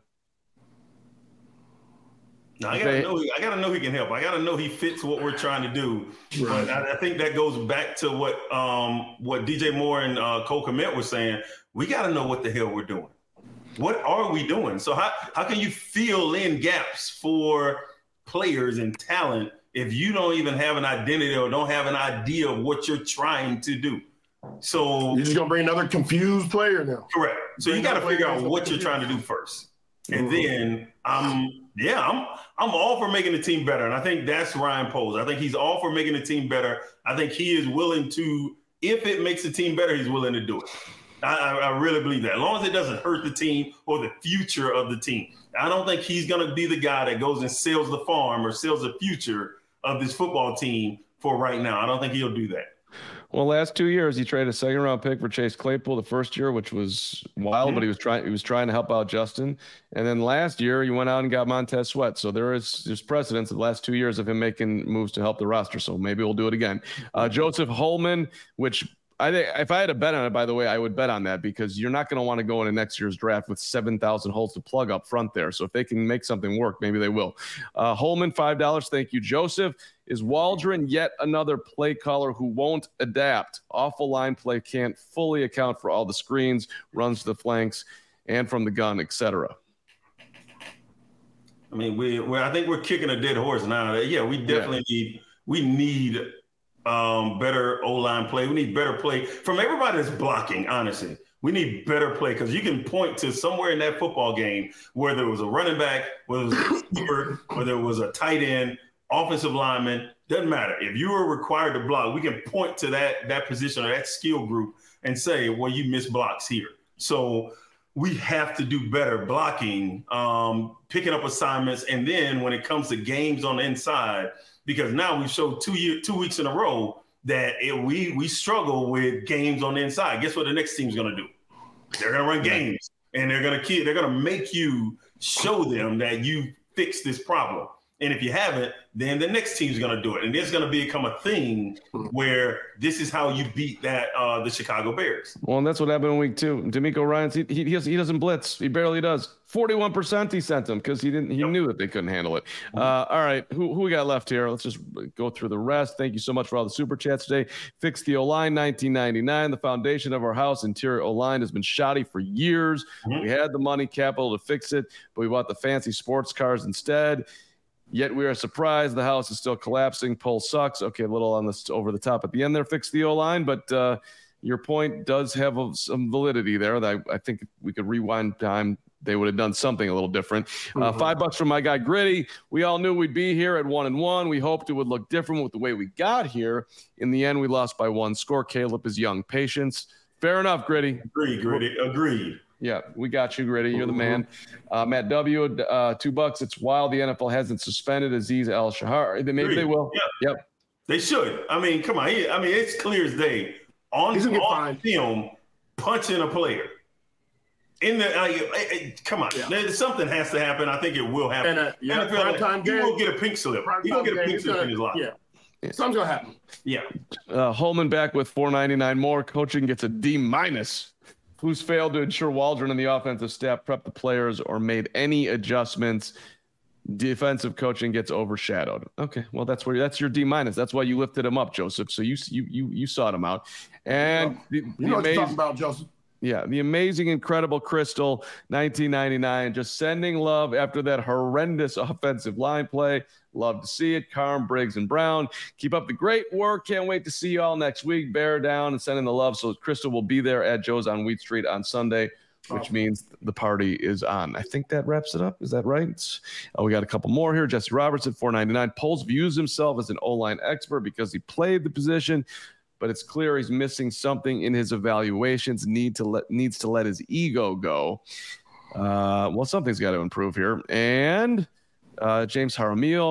No, I gotta they, know. I gotta know he can help. I gotta know he fits what we're trying to do. Right. But I, I think that goes back to what um, what D J Moore and uh, Cole Kmet were saying. We gotta know what the hell we're doing. What are we doing? So how how can you fill in gaps for players and talent if you don't even have an identity or don't have an idea of what you're trying to do? So you're just gonna bring another confused player now. Correct. So bring you got to figure out what you're trying to do first, and mm-hmm. then I'm yeah I'm I'm all for making the team better, and I think that's Ryan Poles. I think he's all for making the team better. I think he is willing to, if it makes the team better, he's willing to do it. I, I really believe that. As long as it doesn't hurt the team or the future of the team. I don't think he's going to be the guy that goes and sells the farm or sells the future of this football team for right now. I don't think he'll do that. Well, last two years he traded a second round pick for Chase Claypool the first year, which was wild, mm-hmm. but he was trying he was trying to help out Justin. And then last year he went out and got Montez Sweat. So there is there's precedence of the last two years of him making moves to help the roster. So maybe we'll do it again. Uh, Joseph Holman, which I think if I had a bet on it, by the way, I would bet on that because you're not going to want to go into next year's draft with seven thousand holes to plug up front there. So if they can make something work, maybe they will. Uh, Holman, five dollars. Thank you, Joseph. Is Waldron yet another play caller who won't adapt? Awful line play, can't fully account for all the screens, runs to the flanks, and from the gun, et cetera. I mean, we we I think we're kicking a dead horse now. Yeah, we definitely yeah. need we need um, better O-line play. We need better play from everybody that's blocking, honestly. We need better play because you can point to somewhere in that football game where there was a running back, whether it was a receiver, whether it was a tight end, offensive lineman, doesn't matter. If you were required to block, we can point to that that position or that skill group and say, well, you missed blocks here. So we have to do better blocking, um, picking up assignments, and then when it comes to games on the inside, because now we've showed two year, two weeks in a row that it, we we struggle with games on the inside. Guess what the next team's going to do? They're going to run games, and they're going to they're going to make you show them that you fixed this problem. And if you haven't, then the next team's going to do it. And it's going to become a thing where this is how you beat that uh, the Chicago Bears. Well, and that's what happened in week two. D'Amico Ryans, he, he, he doesn't blitz. He barely does. forty-one percent he sent them because he didn't. He yep. knew that they couldn't handle it. Uh, all right, who, who we got left here? Let's just go through the rest. Thank you so much for all the super chats today. Fix the O-line, nineteen ninety-nine. The foundation of our house, interior O-line, has been shoddy for years. Mm-hmm. We had the money capital to fix it, but we bought the fancy sports cars instead. Yet we are surprised the house is still collapsing. Poll sucks. Okay, a little on this over the top at the end there. Fix the O-line, but uh, your point does have a, some validity there. That I, I think if we could rewind time, they would have done something a little different. Uh, mm-hmm. Five bucks from my guy Gritty. We all knew we'd be here at one and one. We hoped it would look different with the way we got here. In the end, we lost by one score. Caleb is young. Patience. Fair enough, Gritty. Agreed, Gritty. Agreed. Yeah, we got you, Gritty. You're the man. Uh, Matt W., uh, two bucks. It's wild the N F L hasn't suspended Aziz Al-Shahar. Maybe Agreed. They will. Yeah. Yep. They should. I mean, come on. I mean, it's clear as day. On, on film, punching a player. In the uh, it, it, come on, yeah. Something has to happen. I think it will happen. And, uh, yeah, prime time game. He will get a pink slip. He will get a pink slip in his life. Yeah. Yeah. Something's gonna happen. Yeah. Uh, Holman back with four ninety-nine more. Coaching gets a D minus. Who's failed to ensure Waldron and the offensive staff prep the players or made any adjustments? Defensive coaching gets overshadowed. Okay, well that's where that's your D minus. That's why you lifted him up, Joseph. So you you you you sought him out, and the, you the know what you're talking about, Joseph. Yeah, the amazing, incredible Crystal, nineteen ninety-nine, just sending love after that horrendous offensive line play. Love to see it. Carm, Briggs, and Brown. Keep up the great work. Can't wait to see you all next week. Bear down and sending the love. So Crystal will be there at Joe's on Wheat Street on Sunday, which means the party is on. I think that wraps it up. Is that right? Oh, we got a couple more here. Jesse Robertson, four ninety-nine. Poles views himself as an O-line expert because he played the position, but it's clear he's missing something in his evaluations. Need to let needs to let his ego go. Uh, well, something's got to improve here. And uh, James Jaramillo,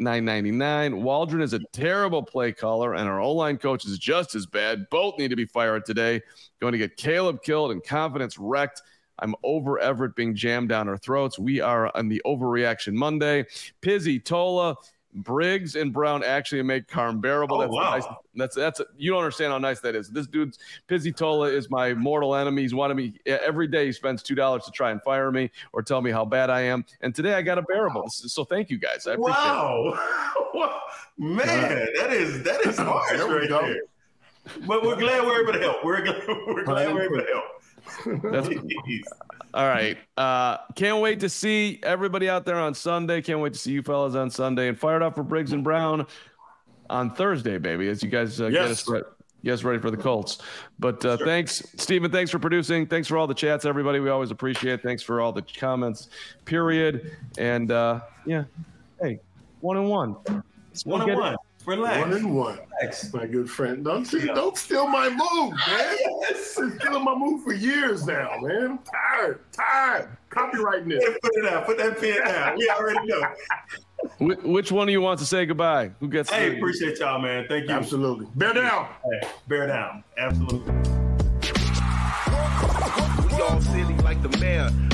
nine ninety-nine. Waldron is a terrible play caller, and our O-line coach is just as bad. Both need to be fired today. Going to get Caleb killed and confidence wrecked. I'm over Everett being jammed down our throats. We are on the Overreaction Monday. Pizzy, Tola, Briggs, and Brown actually make Carm bearable. Oh, that's wow. nice. That's that's a, you don't understand how nice that is. This dude's Pizzy Tola is my mortal enemy. He's wanted me every day. He spends two dollars to try and fire me or tell me how bad I am. And today I got a bearable. So thank you guys. I appreciate wow. it. Man, that is that is harsh There we right go. there. But we're glad we're able to help. We're glad we're, glad we're able to help. That's, all right. Uh, can't wait to see everybody out there on Sunday. Can't wait to see you fellas on Sunday. And fired up for Briggs and Brown on Thursday, baby, as you guys uh, Yes. get us ready. Get us ready for the Colts. But uh, Sure. thanks, Stephen. Thanks for producing. Thanks for all the chats, everybody. We always appreciate it. Thanks for all the comments, period. And, uh, yeah, hey, one and one. Let's One get and it. one. Relax. One and one. Relax. My good friend. Don't see, Yeah. don't steal my move, man. Yes. Been stealing my move for years now, man. I'm tired. Tired. Copywriting this. Put it out. Put that pen down. We already know. Wh- Which one of you wants to say goodbye? Who gets Hey, the- appreciate y'all, man. Thank you. Absolutely. Bear down. Hey, bear down. Absolutely. We all silly like the mayor.